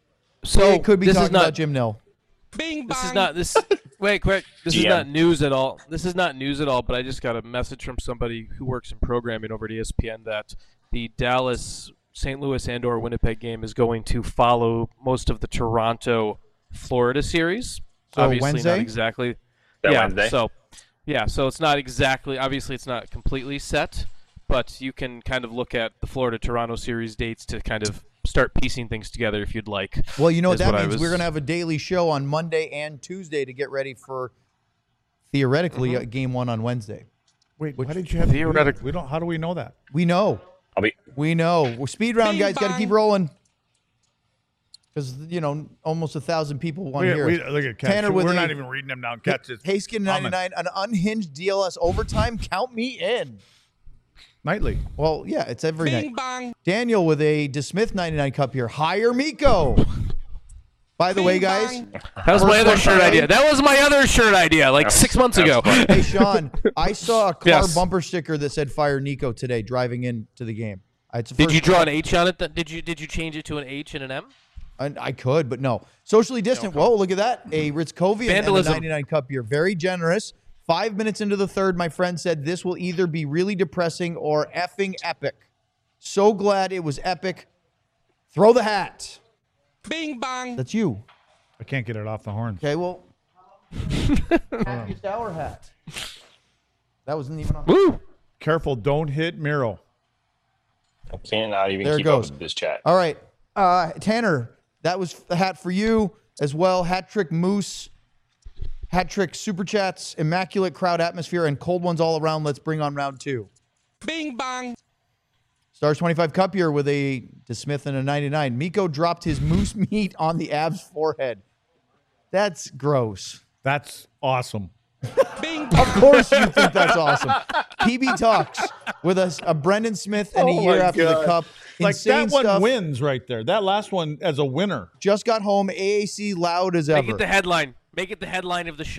So it could be talking about Jim Nill. Bing This bong. is not this. Wait, quick. This is not news at all. This is not news at all. But I just got a message from somebody who works in programming over at ESPN that the Dallas, St. Louis, and/or Winnipeg game is going to follow most of the Toronto, Florida series. So obviously Wednesday? not exactly. Wednesday. So it's not exactly. Obviously, it's not completely set, but you can kind of look at the Florida-Toronto series dates to kind of start piecing things together if you'd like. Well, you know what that means. We're going to have a daily show on Monday and Tuesday to get ready for, theoretically, Game 1 on Wednesday. Wait, why did you have theoretically? We don't. How do we know that? We know. We know. We're speed round, guys. Got to keep rolling. Because, almost 1,000 people want to hear it. Look at Catch. Tanner We're not even reading them down. Catch is Haskinen 99, an unhinged DLS overtime. Count me in. Nightly. Well, yeah, it's every Bing night. bong. Daniel with a DeSmith 99 Cup here. Hire Miko. By the way, guys. That was my other shirt idea. That was my other shirt idea, 6 months ago. Hey, Sean, I saw a car bumper sticker that said "Fire Nico" today driving into the game. Did you draw an H on it? Did you change it to an H and an M? I could, but no. Socially distant. Whoa, look at that. A Ritzkovian and a 99 Cup year. Very generous. 5 minutes into the third, my friend said this will either be really depressing or effing epic. So glad it was epic. Throw the hat. Bing bong. That's you. I can't get it off the horn. Okay, well. Happiest hour hat. That wasn't even on. Woo! Careful, don't hit Miro. I cannot even keep up with this chat. All right. Tanner, that was the hat for you as well. Hat trick Moose. Hat trick Super Chats, immaculate crowd atmosphere, and cold ones all around. Let's bring on round 2. Bing bong. Stars 25 Cup year with a DeSmith and a 99. Miko dropped his moose meat on the Avs forehead. That's gross. That's awesome. Bing Of course you think that's awesome. PB Talks with a Brendan Smith and a year after the Cup. Insane that one stuff. wins right there. That last one as a winner. Just got home. AAC loud as ever. Make it the headline. Make it the headline of the show.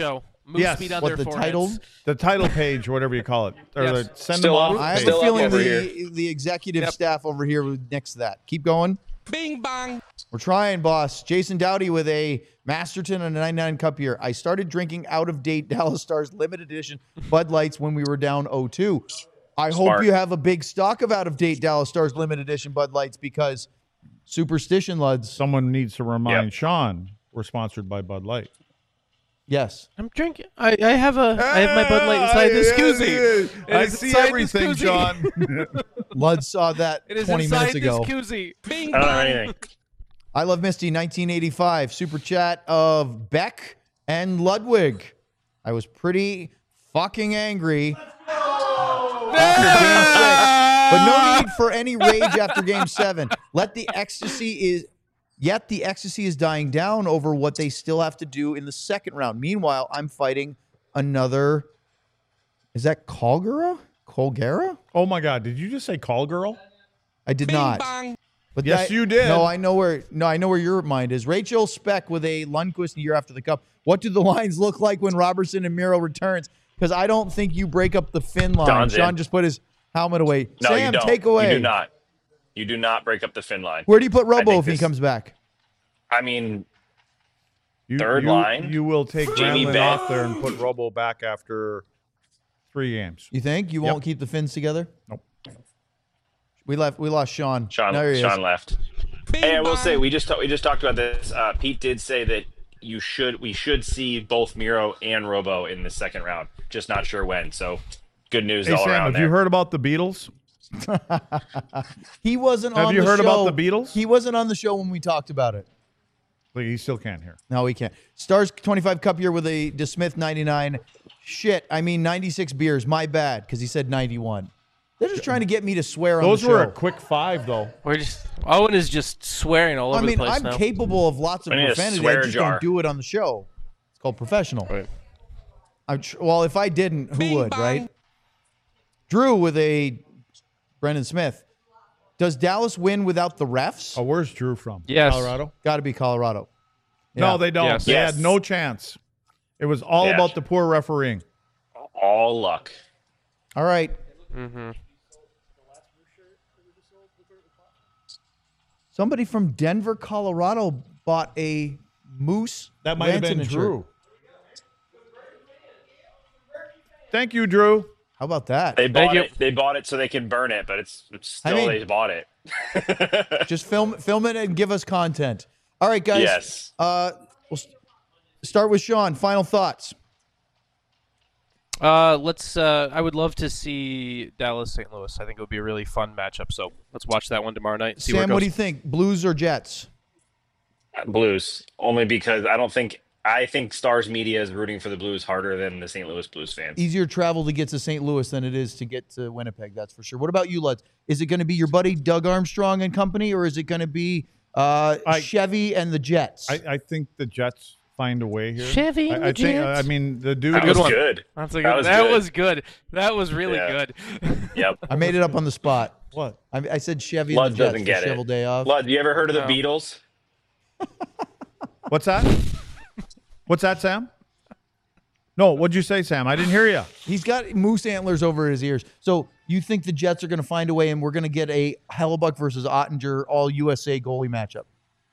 Moose speed on what their the title page, whatever you call it, or the send Still them off. up. I have Still a up feeling over the executive staff over here next to that. Keep going. Bing bang. We're trying, boss. Jason Dowdy with a Masterton and a 99 Cup here. I started drinking out-of-date Dallas Stars limited edition Bud Lights when we were down 0-2. I hope you have a big stock of out-of-date Dallas Stars limited edition Bud Lights because superstition, Luds. Someone needs to remind Sean we're sponsored by Bud Light. Yes. I'm drinking. I have my Bud Light inside this koozie. I see everything, Sean. Lud saw that 20 minutes ago. Koozie. I don't know anything. I Love Misty 1985 super chat of Beck and Ludwig. I was pretty fucking angry after Game 6, but no need for any rage after Game 7. The ecstasy is dying down over what they still have to do in the second round. Meanwhile, I'm fighting another. Is that Colgera? Oh my God! Did you just say call girl? I did Bing not. bang. But Yes, you did. No, I know where your mind is. Rachel Speck with a Lundqvist a year after the Cup. What do the lines look like when Robertson and Miro returns? Because I don't think you break up the fin line. Don's Sean in. just put his helmet away. No, Sam, you don't. take away. You do not. You do not break up the fin line. Where do you put Robo think if he this- comes back? I mean, Third line? You will take Jamie Granlund Benn. off there and put Robo back after 3 games. You think you won't keep the fins together? Nope. We lost Sean. Sean left. Bing Hey, I will bang. say we just talked about this. Pete did say that we should see both Miro and Robo in the second round. Just not sure when. So good news Hey all Sam, around have there. you heard about the Beatles? He wasn't on the show. Have you heard about the Beatles? He wasn't on the show when we talked about it. Like, he still can't hear. No, he can't. Stars 25 Cup year with a DeSmith 99. Shit, I mean 96 beers. My bad, because he said 91. They're just trying to get me to swear on the Those show. were a quick 5, though. Owen is just swearing all over the place I'm now. capable of lots of I need a profanity. I swear just jar. don't do it on the show. It's called professional. Right. Well, if I didn't, who Bing would, bang. right? Drew with a Brendan Smith. Does Dallas win without the refs? Oh, where's Drew from? Yes. Colorado? Got to be Colorado. No, Yeah. they don't. Yes. They Yes. had no chance. It was all Yeah. about the poor refereeing. All luck. All right. Mm-hmm. Somebody from Denver, Colorado bought a Moose. That might have been Rantanen shirt. Drew. Thank you, Drew. How about that? They Thank bought you. it. They bought it so they can burn it, but it's still mean- they bought it. Just film it and give us content. All right, guys. Yes. We'll start with Sean. Final thoughts. Let's. I would love to see Dallas St. Louis. I think it would be a really fun matchup. So let's watch that one tomorrow night. And see where it Sam, goes. what do you think? Blues or Jets? Blues, only because I think Stars media is rooting for the Blues harder than the St. Louis Blues fans. Easier travel to get to St. Louis than it is to get to Winnipeg. That's for sure. What about you, Lutz? Is it going to be your buddy Doug Armstrong and company, or is it going to be Chevy and the Jets? I think the Jets find a way here. Chevy and I the think. Jets. I mean, the dude. That good was one. good. That's a That good. was That good. was good. That was really Yeah. good. Yep. I made it up on the spot. What? I said Chevy Lud and the Jets doesn't for get it. shovel day off. Lud, you ever heard of the No. Beatles? What's that? What's that, Sam? No, what'd you say, Sam? I didn't hear you. He's got moose antlers over his ears. So you think the Jets are going to find a way, and we're going to get a Hellebuck versus Ottinger all USA goalie matchup?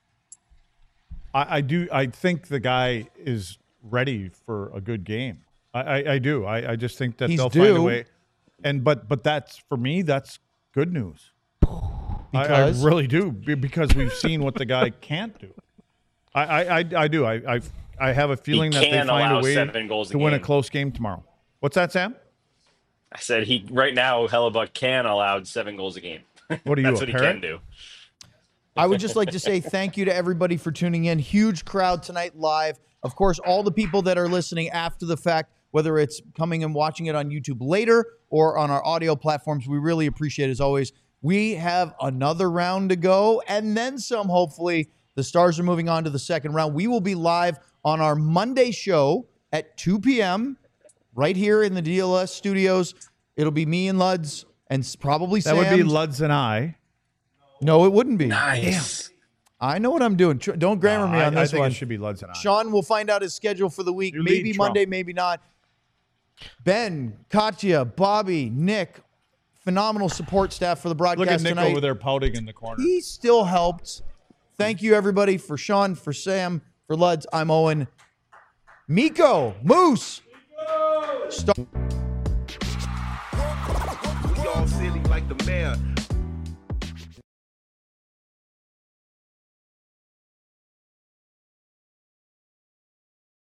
I do. I think the guy is ready for a good game. I do. I just think that He's they'll find a due. way. And but that's for me. That's good news. I Because? really do because we've seen what the guy can't do. I do. I have a feeling that they can find allow a way 7 goals a to win a game. close game tomorrow. What's that, Sam? I said right now Hellebuck can allow 7 goals a game. What are you? That's a what he parrot? can do. I would just like to say thank you to everybody for tuning in. Huge crowd tonight live. Of course, all the people that are listening after the fact, whether it's coming and watching it on YouTube later or on our audio platforms, we really appreciate it as always. We have another round to go and then some, hopefully. The Stars are moving on to the second round. We will be live on our Monday show at 2 p.m. right here in the DLS studios. It'll be me and Luds and probably That Sam. would be Luds and I. No, it wouldn't be. Nice. I know what I'm doing. Don't grammar me on this I think one. It should be Luds and I. Sean will find out his schedule for the week. Maybe Monday, maybe not. Ben, Katya, Bobby, Nick, phenomenal support staff for the broadcast Look at Nick tonight. over there pouting in the corner. He still helped. Thank you, everybody, for Sean, for Sam, for Luds. I'm Owen. Miko, Moose. We all silly like the mayor.